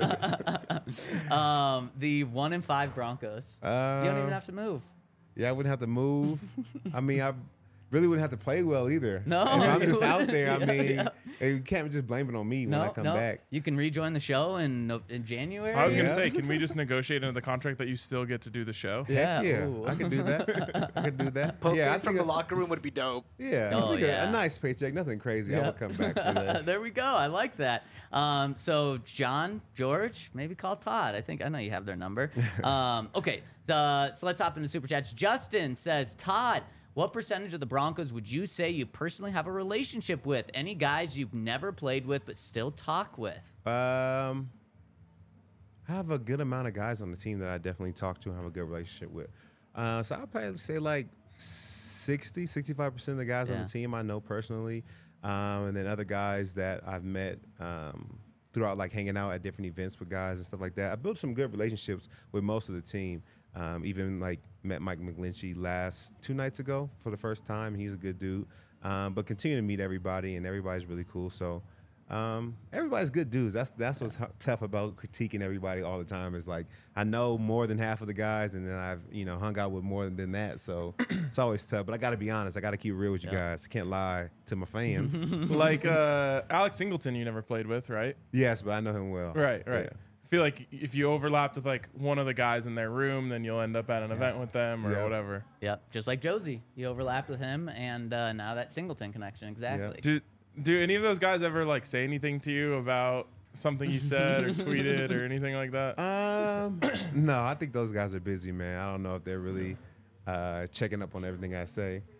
The 1-5 Broncos. You don't even have to move. Yeah, I wouldn't have to move. I mean, I really wouldn't have to play well either. No, if I'm you just out wouldn't. there, I Yeah, mean, yeah. you can't just blame it on me when I come back. You can rejoin the show in January. I was going to Yeah. say, can we just negotiate into the contract that you still get to do the show? Yeah. Heck yeah, Ooh. I can do that. I can do that. Post yeah, I game from think the locker room would be dope. Yeah, Oh, I think yeah. a nice paycheck, nothing crazy. I Yeah. would come back for that. There we go. I like that. So John, George, maybe call Todd. I know you have their number. Okay. So let's hop into super chats. Justin says, Todd, what percentage of the Broncos would you say you personally have a relationship with? Any guys you've never played with but still talk with? I have a good amount of guys on the team that I definitely talk to and have a good relationship with. So I'd probably say like 65% of the guys on Yeah. the team I know personally. And then other guys that I've met throughout like hanging out at different events with guys and stuff like that. I built some good relationships with most of the team. Even like met Mike McGlinchey 2 nights ago for the first time. He's a good dude. But continue to meet everybody, and everybody's really cool. So everybody's good dudes. That's what's tough about critiquing everybody all the time. Is like I know more than half of the guys, and then I've hung out with more than that. So it's always tough. But I got to be honest. I got to keep it real with you guys. I can't lie to my fans. Like Alex Singleton you never played with, right? Yes, but I know him well. Right. Yeah. I feel like if you overlapped with like one of the guys in their room, then you'll end up at an event with them or Yeah. whatever. Yep. Just like Josie. You overlapped with him, and now that Singleton connection. Exactly. Do any of those guys ever like say anything to you about something you said or tweeted or anything like that? No, I think those guys are busy, man. I don't know if they're really checking up on everything I say.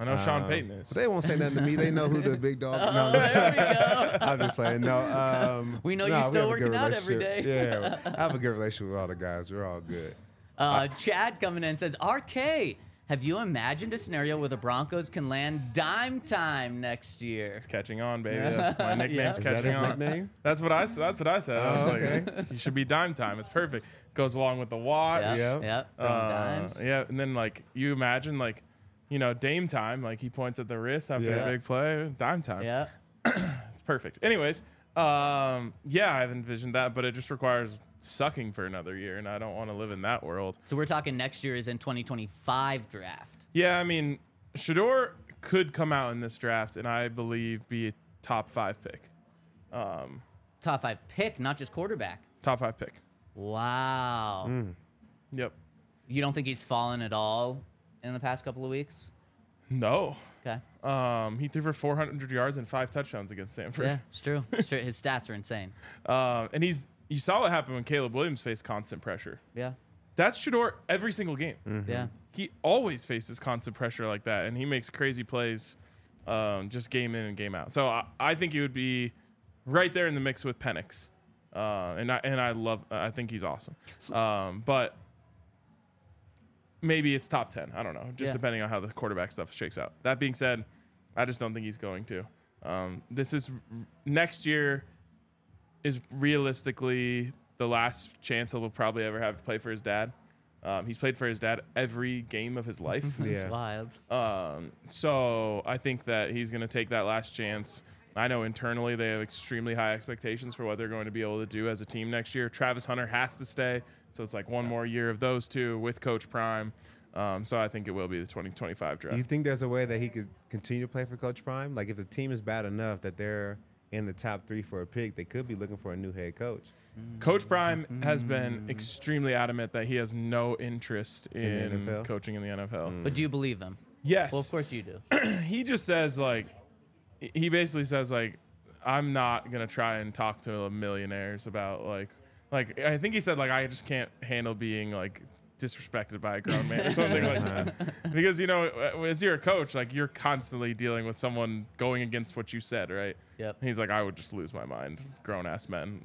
I know Sean Payton is. But they won't say nothing to me. They know who the big dog. No, There we go. I'm just playing. No, We know no, you're still we have a good working out every relationship. day. Yeah, I have a good relationship with all the guys. We're all good. Chad coming in says, RK, have you imagined a scenario where the Broncos can land dime time next year? It's catching on, baby. My nickname's Yeah. Is that catching his on. nickname? That's what I said. I was okay. like, you should be dime time. It's perfect. Goes along with the watch. Yep. Yeah. Throwing dimes. Yeah, and then like you imagine like, Dame time. Like he points at the wrist after Yeah. a big play. Dime time. Yeah. It's perfect. Anyways, yeah, I've envisioned that, but it just requires sucking for another year, and I don't want to live in that world. So we're talking next year is in 2025 draft. Yeah, I mean, Shador could come out in this draft, and I believe be a top 5 pick. Top 5 pick, not just quarterback. Top 5 pick. Wow. Yep. You don't think he's fallen at all in the past couple of weeks? No. Okay. He threw for 400 yards and 5 touchdowns against Stanford. Yeah, it's true. It's true. His stats are insane. And you saw what happened when Caleb Williams faced constant pressure. Yeah. That's Shador every single game. Yeah. He always faces constant pressure like that, and he makes crazy plays just game in and game out. So I think he would be right there in the mix with Penix. I think he's awesome. But maybe it's top 10. I don't know, just Yeah. depending on how the quarterback stuff shakes out. That being said, I just don't think he's going to. This is next year is realistically the last chance he'll probably ever have to play for his dad. He's played for his dad every game of his life. It's Yeah. wild. So I think that he's going to take that last chance. I know internally they have extremely high expectations for what they're going to be able to do as a team next year. Travis Hunter has to stay, so it's like one more year of those two with Coach Prime. So I think it will be the 2025 Do draft. you think there's a way that he could continue to play for Coach Prime? Like if the team is bad enough that they're in the top 3 for a pick, they could be looking for a new head coach. Coach Prime has been extremely adamant that he has no interest the in NFL? coaching in the NFL. But do you believe him? Yes. Well, of course you do. He just says he basically says I'm not gonna try and talk to millionaires about like I think he said I just can't handle being disrespected by a grown man or something like that. Because as you're a coach, you're constantly dealing with someone going against what you said, right? Yep. And he's like, I would just lose my mind, grown ass men,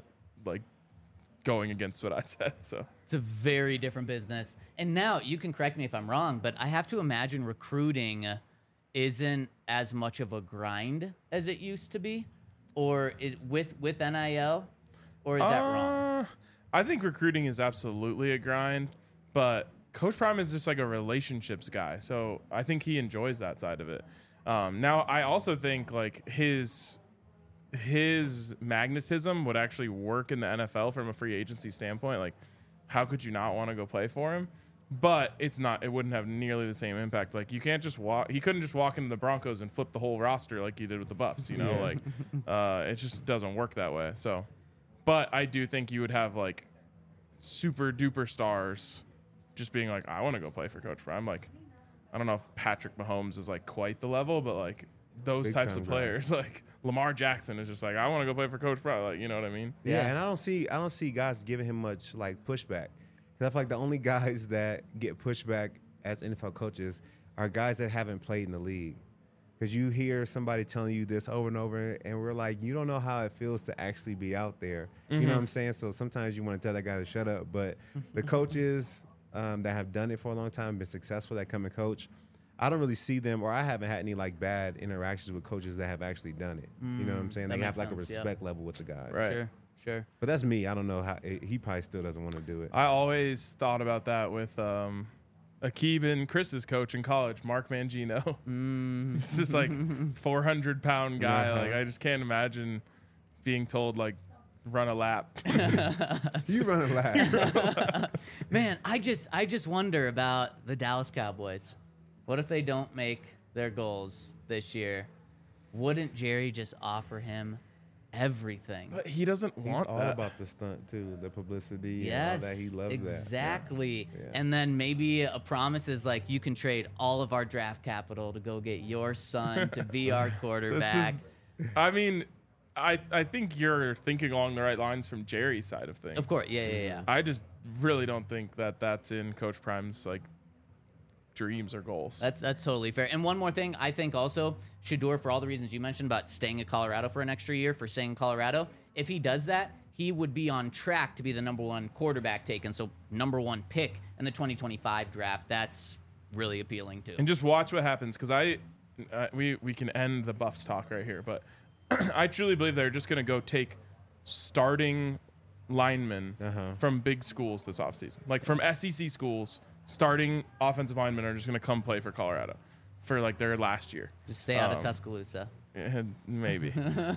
going against what I said. So It's a very different business. And now you can correct me if I'm wrong, but I have to imagine recruiting isn't as much of a grind as it used to be, or with NIL, or is that wrong? I think recruiting is absolutely a grind, but Coach Prime is just a relationships guy, so I think he enjoys that side of it. Now, I also think his magnetism would actually work in the NFL from a free agency standpoint. How could you not want to go play for him? But it's not. It wouldn't have nearly the same impact. You can't just walk. He couldn't just walk into the Broncos and flip the whole roster like he did with the Buffs. It just doesn't work that way. So, but I do think you would have super duper stars just being I want to go play for Coach Prime. I don't know if Patrick Mahomes is quite the level, but those Big types time of players, Lamar Jackson is just I want to go play for Coach Prime. You know what I mean? Yeah, Yeah. and I don't see guys giving him much pushback. Because I feel the only guys that get pushback as NFL coaches are guys that haven't played in the league. Because you hear somebody telling you this over and over, and we're you don't know how it feels to actually be out there. You know what I'm saying? So sometimes you want to tell that guy to shut up. But the coaches that have done it for a long time, been successful, that come and coach, I don't really see them, or I haven't had any bad interactions with coaches that have actually done it. You know what I'm saying? that They have makes a sense, yeah. respect level with the guys. Right. Sure. But that's me. I don't know how he probably still doesn't want to do it. I always thought about that with Akib and Chris's coach in college, Mark Mangino. He's just 400-pound guy. Uh-huh. I just can't imagine being told run a lap. You run a lap. Man, I just wonder about the Dallas Cowboys. What if they don't make their goals this year? Wouldn't Jerry just offer him everything? But he doesn't He's want all that. about the stunt too, the publicity Yes, and all that. He loves exactly. Yeah. And then maybe a promise is you can trade all of our draft capital to go get your son to be our quarterback. I think you're thinking along the right lines from Jerry's side of things. Of course, yeah. I just really don't think that that's in Coach Prime's dreams or goals. That's totally fair. And one more thing, I think also Shedeur, for all the reasons you mentioned about staying at Colorado for an extra year, for staying in Colorado, if he does that, he would be on track to be the number one quarterback taken, so number one pick in the 2025 draft. That's really appealing too. And just watch what happens, because we can end the Buffs talk right here, but I truly believe they're just going to go take starting linemen from big schools this offseason. Like from SEC schools, starting offensive linemen are just going to come play for Colorado for like their last year. Just stay out of Tuscaloosa. Maybe.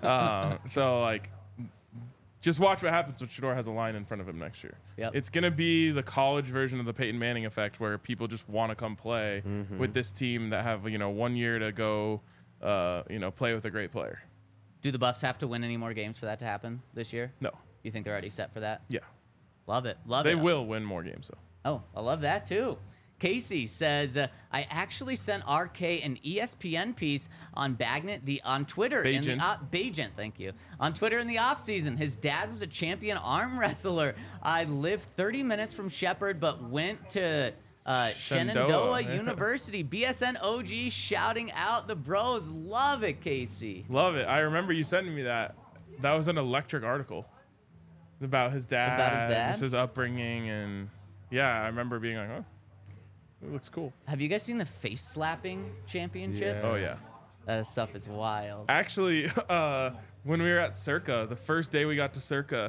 So like, just watch what happens when Shedeur has a line in front of him next year. Yep. It's going to be the college version of the Peyton Manning effect, where people just want to come play with this team that have, 1 year to go, play with a great player. Do the Buffs have to win any more games for that to happen this year? No. You think they're already set for that? Yeah. Love it. They will win more games, though. Oh, I love that too. Casey says, I actually sent RK an ESPN piece on Bagnet on Twitter. Bagent. Bagent, thank you. On Twitter in the offseason. His dad was a champion arm wrestler. I lived 30 minutes from Shepherd, but went to Shenandoah University. BSN OG shouting out the bros. Love it, Casey. Love it. I remember you sending me that. That was an electric article about his dad. Just his upbringing. And yeah, I remember being like, oh, it looks cool. Have you guys seen the face slapping championships? Yes. Oh, yeah. That stuff is wild. Actually, when we were at Circa, the first day we got to Circa,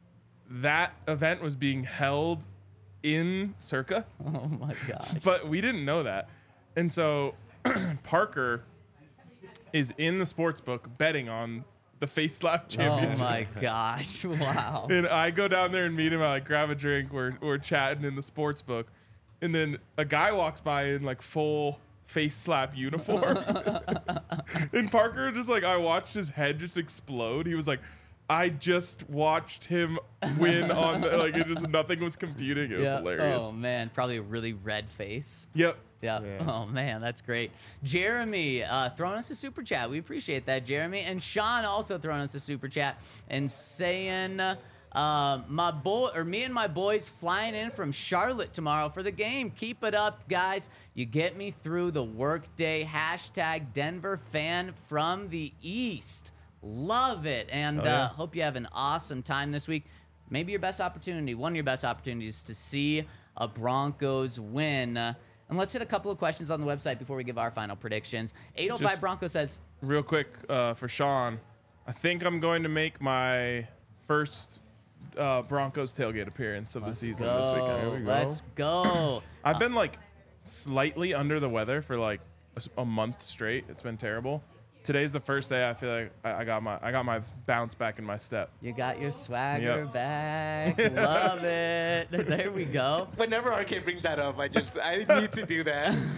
that event was being held in Circa. Oh my gosh. But we didn't know that. And so Parker is in the sports book betting on the face slap championship. Oh my gosh. Wow. And I go down there and meet him. I like grab a drink. We're chatting in the sports book. And then a guy walks by in like full face slap uniform. And Parker just like, I watched his head just explode. He was like, I just watched him win on like it just nothing was computing. It was hilarious. Oh man, probably a really red face. Yep. Yeah. Yeah. Oh man, that's great. Jeremy throwing us a super chat. We appreciate that, Jeremy. And Sean also throwing us a super chat and saying, me and my boys flying in from Charlotte tomorrow for the game. Keep it up, guys. You get me through the workday. # Denver fan from the East. Love it. And hope you have an awesome time this week. Maybe your best opportunity, one of your best opportunities to see a Broncos win. And let's hit a couple of questions on the website before we give our final predictions. 805 Just- Broncos says, Real quick for Sean, I think I'm going to make my first Broncos tailgate appearance of the season this weekend. There we go. Let's go. I've been like slightly under the weather for like a month straight. It's been terrible. Today's the first day I feel like I got my bounce back in my step. You got your swagger Yep. back. Love it. There we go. Whenever RK brings that up, I need to do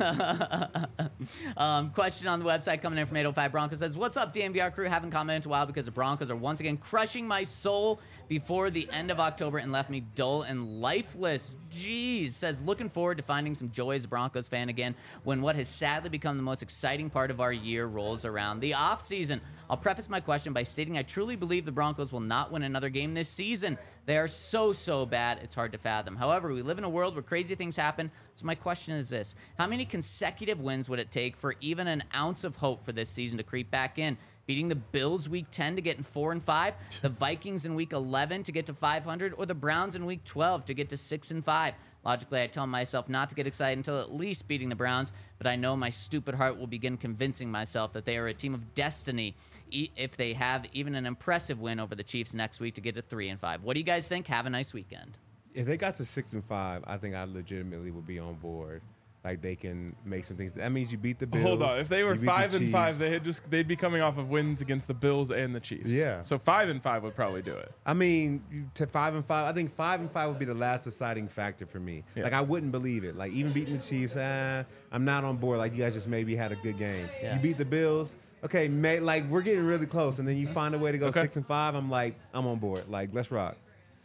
that. Question on the website coming in from 805 Broncos says, what's up, DNVR crew? Haven't commented in a while because the Broncos are once again crushing my soul before the end of October and left me dull and lifeless. Jeez. Says, looking forward to finding some joy as a Broncos fan again when what has sadly become the most exciting part of our year rolls around, the offseason. I'll preface my question by stating I truly believe the Broncos will not win another game this season. They are so bad, it's hard to fathom. However, we live in a world where crazy things happen, so my question is this. How many consecutive wins would it take for even an ounce of hope for this season to creep back in? Beating the Bills week 10 to get in 4-5, the Vikings in week 11 to get to 500, or the Browns in week 12 to get to 6-5. Logically, I tell myself not to get excited until at least beating the Browns, but I know my stupid heart will begin convincing myself that they are a team of destiny if they have even an impressive win over the Chiefs next week to get to 3-5. What do you guys think? Have a nice weekend. If they got to 6-5, I think I legitimately would be on board. Like they can make some things. That means you beat the Bills. Hold on. If they were you beat the 5-5, Chiefs. they'd be coming off of wins against the Bills and the Chiefs. Yeah. So 5-5 would probably do it. I mean, to 5-5, I think 5-5 would be the last deciding factor for me. Yeah. Like I wouldn't believe it. Like even beating the Chiefs, I'm not on board. Like you guys just maybe had a good game. Yeah. You beat the Bills, okay, like we're getting really close, and then you find a way to go Okay. 6-5. I'm like, I'm on board. Like let's rock.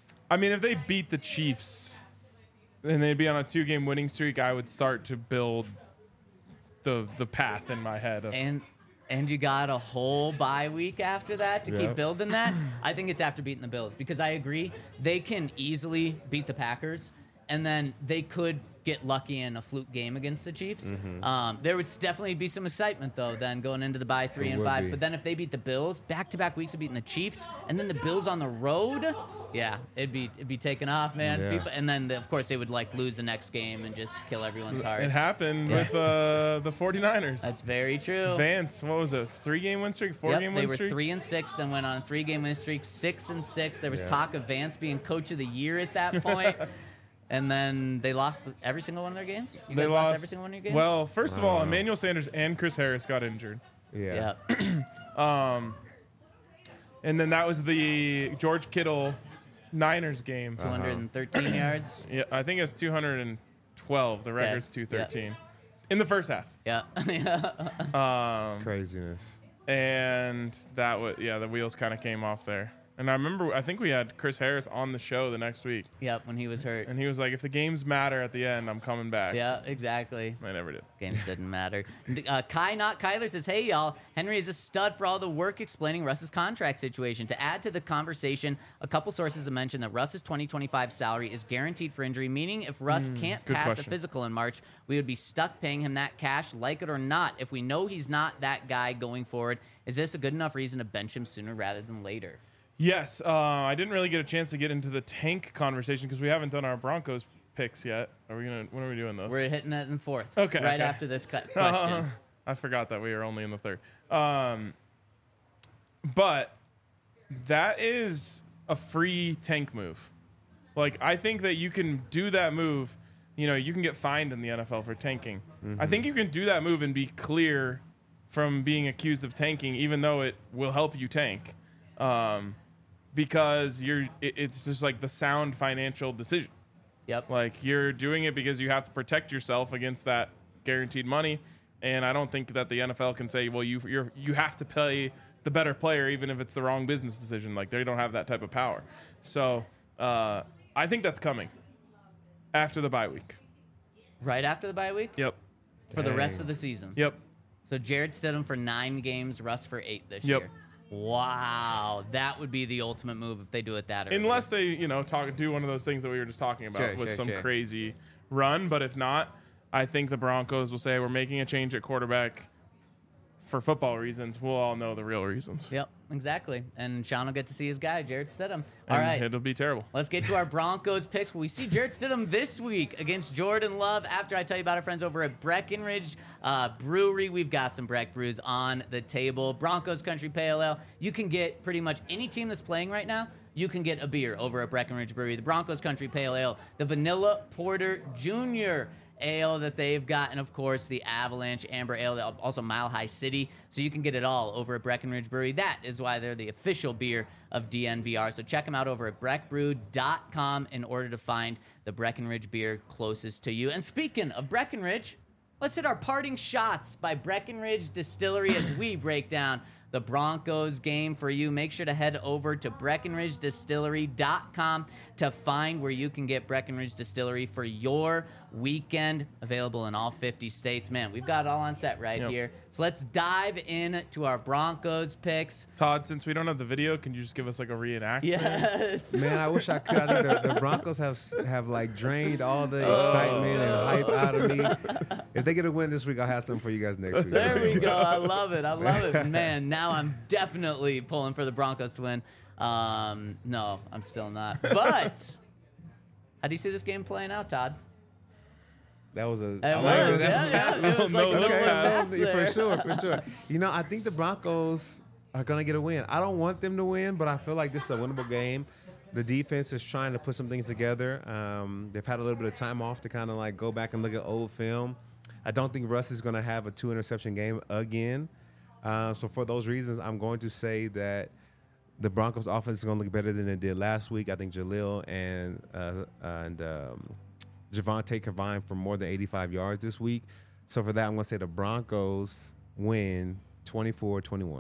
I mean, if they beat the Chiefs and they'd be on a 2-game winning streak, I would start to build the path in my head of And you got a whole bye week after that to Yeah. keep building that. I think it's after beating the Bills because I agree they can easily beat the Packers. and then they could get lucky in a fluke game against the Chiefs. There would definitely be some excitement though then going into the bye 3-5. be. But then if they beat the Bills, back-to-back weeks of beating the Chiefs, and then the Bills on the road, yeah, it'd be taking off, man. Yeah. People, and then of course they would like lose the next game and just kill everyone's hearts. It happened with the 49ers. That's very true. Vance, what was it? 3-game win streak? 4-game They win were streak? 3-6, then went on a 3-game win streak, 6-6. There was Yeah. talk of Vance being coach of the year at that point. And then they lost every single one of their games. You guys lost every single one of your games. Well, first of all, Emmanuel Sanders and Chris Harris got injured. Yeah. yeah. And then that was the George Kittle Niners game. 213 yards. Yeah, I think it's 212. The record's 213 in the first half. Yeah. Craziness. And that was the wheels kind of came off there. And I think we had Chris Harris on the show the next week, Yep, when he was hurt. and he was like, "If the games matter at the end, I'm coming back." Yeah, exactly. I never did. Games didn't matter. Kai Not Kyler says, hey, y'all, Henry is a stud for all the work explaining Russ's contract situation. To add to the conversation, a couple sources have mentioned that Russ's 2025 salary is guaranteed for injury, meaning if Russ can't good pass a question. physical in March, we would be stuck paying him that cash, like it or not. If we know he's not that guy going forward, is this a good enough reason to bench him sooner rather than later? Yes, I didn't really get a chance to get into the tank conversation because we haven't done our Broncos picks yet. When are we doing those? We're hitting that in fourth. Okay, Right okay. after this question. I forgot that we were only in the third. But that is a free tank move. Like, I think that you can do that move. You know, you can get fined in the NFL for tanking. I think you can do that move and be clear from being accused of tanking, even though it will help you tank. Because it's just like the sound financial decision. Yep. Like, you're doing it because you have to protect yourself against that guaranteed money. And I don't think that the NFL can say, well, you have to pay the better player even if it's the wrong business decision. Like, they don't have that type of power. So I think that's coming after the bye week. Right after the bye week? Yep. For the rest Dang. of the season. Yep. So Jared Stidham for 9 games, Russ for 8 this Yep. year. Wow, that would be the ultimate move if they do it that early. Unless they, do one of those things that we were just talking about with some crazy run. But if not, I think the Broncos will say we're making a change at quarterback for football reasons. We'll all know the real reasons. Yep, exactly. And Sean will get to see his guy, Jared Stidham. All And right. it'll be terrible. Let's get to our Broncos picks. We see Jared Stidham this week against Jordan Love. After I tell you about our friends over at Breckenridge Brewery, we've got some Breck brews on the table. Broncos Country Pale Ale. You can get pretty much any team that's playing right now. You can get a beer over at Breckenridge Brewery. The Broncos Country Pale Ale, the Vanilla Porter Jr. Ale that they've got, and of course the Avalanche Amber Ale, also Mile High City. So you can get it all over at Breckenridge Brewery. That is why they're the official beer of DNVR. So check them out over at breckbrew.com in order to find the Breckenridge beer closest to you. And speaking of Breckenridge, let's hit our parting shots by Breckenridge Distillery as we break down the Broncos game for you. Make sure to head over to BreckenridgeDistillery.com to find where you can get Breckenridge Distillery for your weekend. Available in all 50 states. Man, we've got it all on set right here. So let's dive into our Broncos picks. Todd, since we don't have the video, can you just give us like a reenactment? Yes. Man, I wish I could. I think the Broncos have like drained all the excitement and hype out of me. If they get a win this week, I'll have something for you guys next week. There we go. I love it. I love it. Man, now I'm definitely pulling for the Broncos to win. No, I'm still not. But how do you see this game playing out, Todd? That was a. It I was, like it. yeah. It was like a No, little okay. pass For there. sure. You know, I think the Broncos are going to get a win. I don't want them to win, but I feel like this is a winnable game. The defense is trying to put some things together. They've had a little bit of time off to kind of like go back and look at old film. I don't think Russ is going to have a 2-interception game again. So for those reasons, I'm going to say that the Broncos offense is going to look better than it did last week. I think Jaleel and Javonte combined for more than 85 yards this week. So for that, I'm going to say the Broncos win 24-21.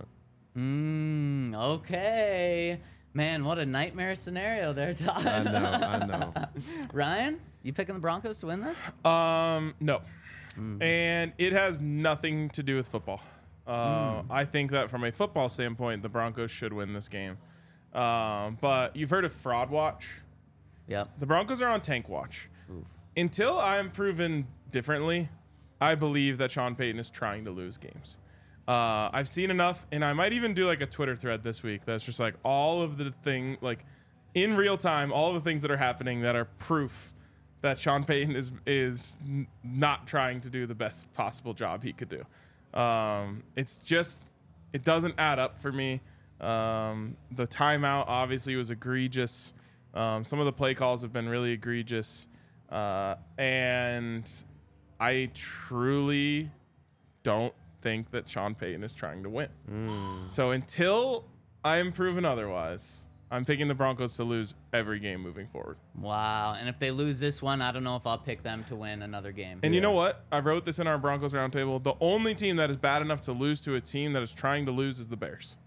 Okay. Man, what a nightmare scenario there, Todd. I know. Ryan, you picking the Broncos to win this? No. And it has nothing to do with football. I think that from a football standpoint, the Broncos should win this game. But you've heard of Fraud Watch? Yep. The Broncos are on Tank Watch. until I'm proven differently, I believe that Sean Payton is trying to lose games. I've seen enough, and I might even do like a Twitter thread this week that's just like all of the thing, like in real time, all the things that are happening that are proof that Sean Payton is not trying to do the best possible job he could do. It's just, it doesn't add up for me. The timeout obviously was egregious. Some of the play calls have been really egregious. And I truly don't think that Sean Payton is trying to win. So until I am proven otherwise, I'm picking the Broncos to lose every game moving forward. Wow. And if they lose this one, I don't know if I'll pick them to win another game. And you know what? I wrote this in our Broncos roundtable. The only team that is bad enough to lose to a team that is trying to lose is the Bears.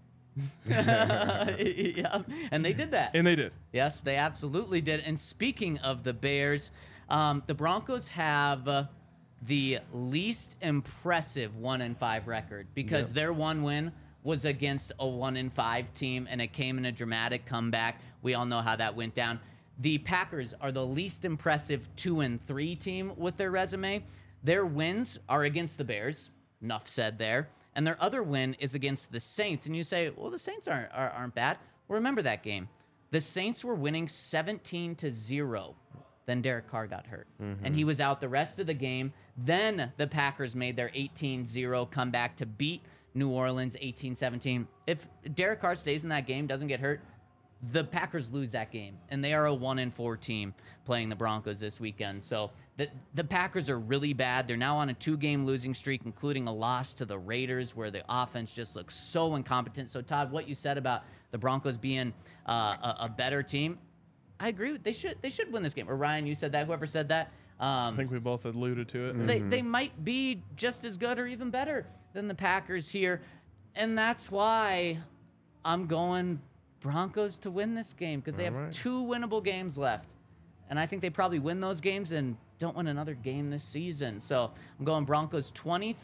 Yeah. And they did that. And they did. Yes, they absolutely did. And speaking of the Bears, the Broncos have the least impressive 1-5 record because their one win was against a 1-5 team, and it came in a dramatic comeback. We all know how that went down. The Packers are the least impressive 2-3 team with their resume. Their wins are against the Bears. Enough said there. And their other win is against the Saints. And you say, well, the Saints aren't bad. Well, remember that game. The Saints were winning 17-0. Then Derek Carr got hurt. And he was out the rest of the game. Then the Packers made their 18-0 comeback to beat New Orleans 18-17. If Derek Carr stays in that game, doesn't get hurt, the Packers lose that game. And they are a 1-4 team playing the Broncos this weekend. So the Packers are really bad. They're now on a 2-game losing streak, including a loss to the Raiders, where the offense just looks so incompetent. So, Todd, what you said about the Broncos being a better team, I agree. They should win this game. Or Ryan, you said that. Whoever said that. I think we both alluded to it. They might be just as good or even better than the Packers here. And that's why I'm going Broncos to win this game, because they have 2 winnable games left. And I think they probably win those games and don't win another game this season. So I'm going Broncos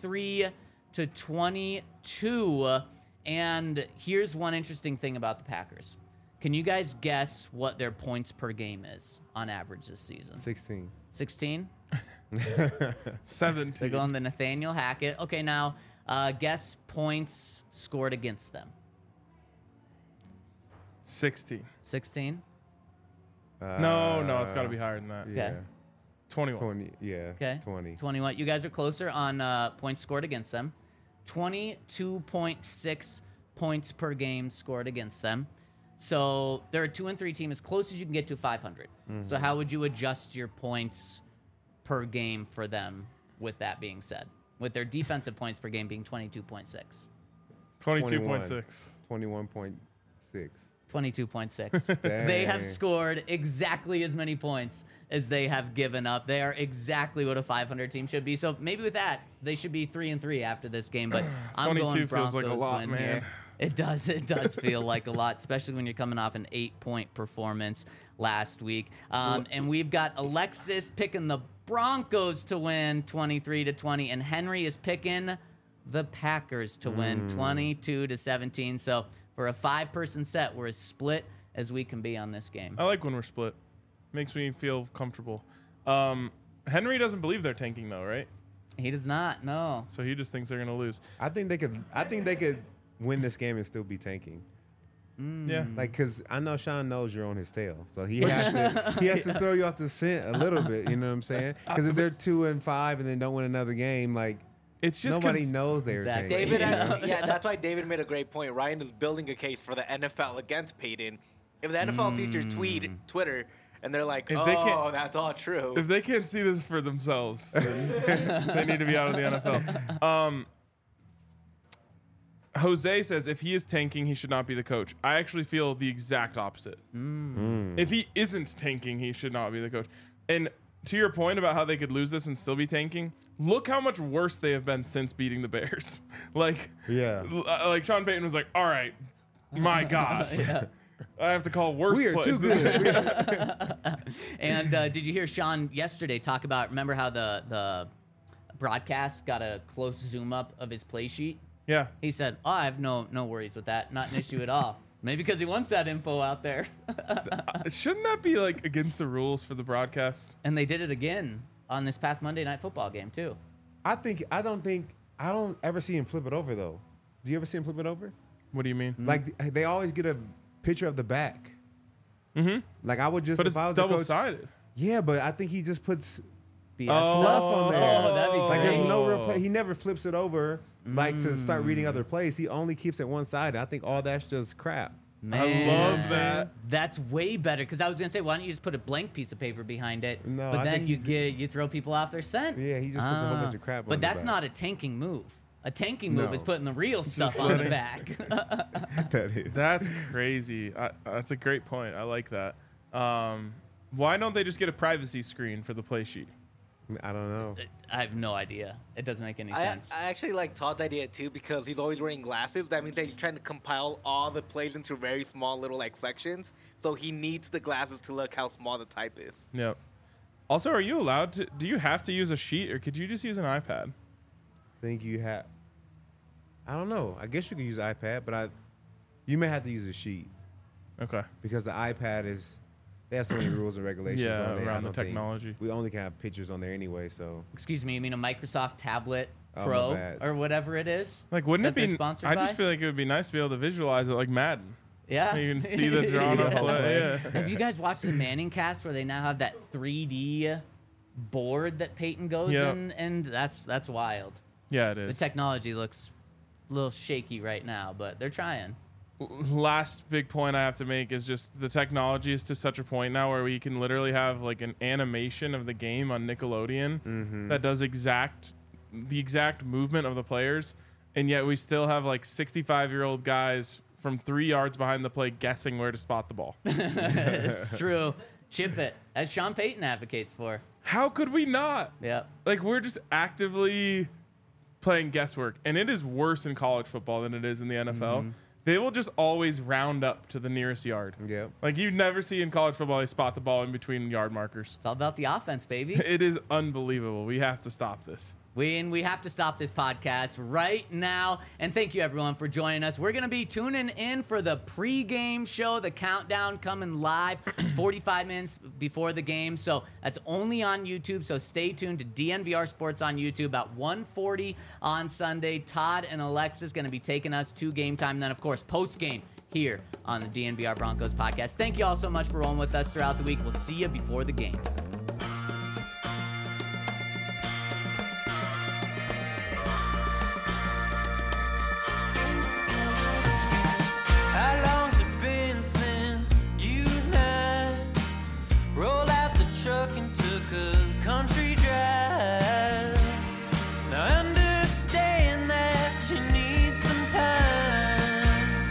23-22. And here's one interesting thing about the Packers. Can you guys guess what their points per game is on average this season? 16. 16? 17. They're going to Nathaniel Hackett. Okay, now guess points scored against them. 16. 16? No, it's got to be higher than that. Yeah. Okay. 21. 20. Yeah. Okay. 20. 21. You guys are closer on points scored against them. 22.6 points per game scored against them. So they're a 2-3 team, as close as you can get to 500. So how would you adjust your points per game for them with that being said? With their defensive points per game being 22.6. 22.6. 21.6. 22.6. They have scored exactly as many points as they have given up. They are exactly what a 500 team should be. So maybe with that, they should be 3-3 after this game. But I'm 22 going feels Broncos like a lot, win man. here. It does feel like a lot, especially when you're coming off an 8-point performance last week. And we've got Alexis picking the Broncos to win 23-20, and Henry is picking the Packers to win 22-17. So for a 5-person set, we're as split as we can be on this game. I like when we're split. Makes me feel comfortable. Henry doesn't believe they're tanking though, right? He does not, no. So he just thinks they're gonna lose. I think they could win this game and still be tanking. Yeah. Like, cause I know Sean knows you're on his tail, so he has to throw you off the scent a little bit. You know what I'm saying? Because if they're 2-5 and then don't win another game, like It's just nobody knows they're Exactly. tanking. David, Yeah. that's why David made a great point. Ryan is building a case for the NFL against Payton. If the NFL sees your Twitter, and they're like, If they can't- that's all true. If they can't see this for themselves, then they need to be out of the NFL. Jose says if he is tanking, he should not be the coach. I actually feel the exact opposite. If he isn't tanking, he should not be the coach. And to your point about how they could lose this and still be tanking, look how much worse they have been since beating the Bears. Like Sean Payton was like, all right, my gosh. I have to call worse We are plays. too good. And did you hear Sean yesterday talk about, remember how the broadcast got a close zoom up of his play sheet? Yeah. He said, I have no worries with that. Not an issue at all. Maybe because he wants that info out there. Shouldn't that be like against the rules for the broadcast? And they did it again on this past Monday Night Football game too. I don't ever see him flip it over though. Do you ever see him flip it over? What do you mean? Like they always get a picture of the back. Mm-hmm. Like I would just, But if it's I was a coach, double-sided. yeah, but I think he just puts BS stuff on there. Oh, that'd be like great. there's no real play. He never flips it over like to start reading other plays. He only keeps it one side. I think all that's just crap. Man, I love that. That's way better because I was gonna say, why don't you just put a blank piece of paper behind it? No, but I then think you throw people off their scent. Yeah, he just puts a whole bunch of crap on But the that's back. not a tanking move. A tanking move No. is putting the real stuff on the back. That is. That's crazy. That's a great point. I like that. Why don't they just get a privacy screen for the play sheet? I don't know. I have no idea. It doesn't make any I sense. actually like Todd's idea too because he's always wearing glasses. That means that he's trying to compile all the plays into very small little like sections. So he needs the glasses to look how small the type is. Yep. Also, are you allowed to? Do you have to use a sheet, or could you just use an iPad? Think you have? I don't know. I guess you could use iPad, but you may have to use a sheet Okay. because the iPad is. They have so many rules and regulations Yeah, on there. I around the don't think- technology. We only can have pictures on there anyway, so Excuse me, you mean a Microsoft Tablet Oh, my Pro bad. or whatever it is? Like, wouldn't that it they're be? sponsored I by? just feel like it would be nice to be able to visualize it like Madden. Yeah. You can see the drawn up play. Yeah. Have you guys watched the Manning cast where they now have that 3D board that Peyton goes Yep. in? And that's wild. Yeah, it The is. technology looks a little shaky right now, but they're trying. Last big point I have to make is just the technology is to such a point now where we can literally have like an animation of the game on Nickelodeon that does the exact movement of the players, and yet we still have like 65-year-old guys from 3 yards behind the play guessing where to spot the ball. It's true. Chip it, as Sean Payton advocates for. How could we not? Yep. Like, we're just actively playing guesswork, and it is worse in college football than it is in the NFL. They will just always round up to the nearest yard. yeah. Like, you never see in college football they spot the ball in between yard markers. It's all about the offense, baby. It is unbelievable. We have to stop this. We have to stop this podcast right now. And thank you, everyone, for joining us. We're going to be tuning in for the pregame show, the countdown coming live 45 minutes before the game. So that's only on YouTube. So stay tuned to DNVR Sports on YouTube about 1:40 on Sunday. Todd and Alexis going to be taking us to game time. And then, of course, post-game here on the DNVR Broncos podcast. Thank you all so much for rolling with us throughout the week. We'll see you before the game. How long's it been since you and I rolled out the truck and took a country drive? Now I understand that you need some time.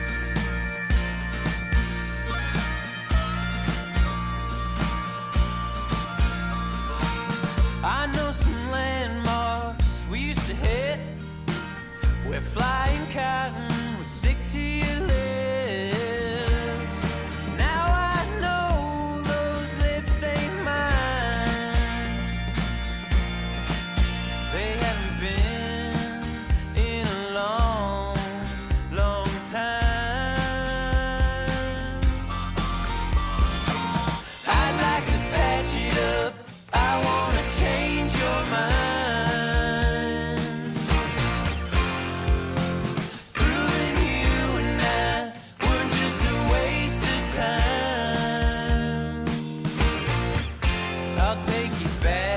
I know some landmarks we used to hit where flying cotton would stick to your lips. Now I know those lips ain't mine. They haven't been in a long, long time. I'd like to patch it up. I wanna change your mind. Proving you and I were just a waste of time. I'll take you back.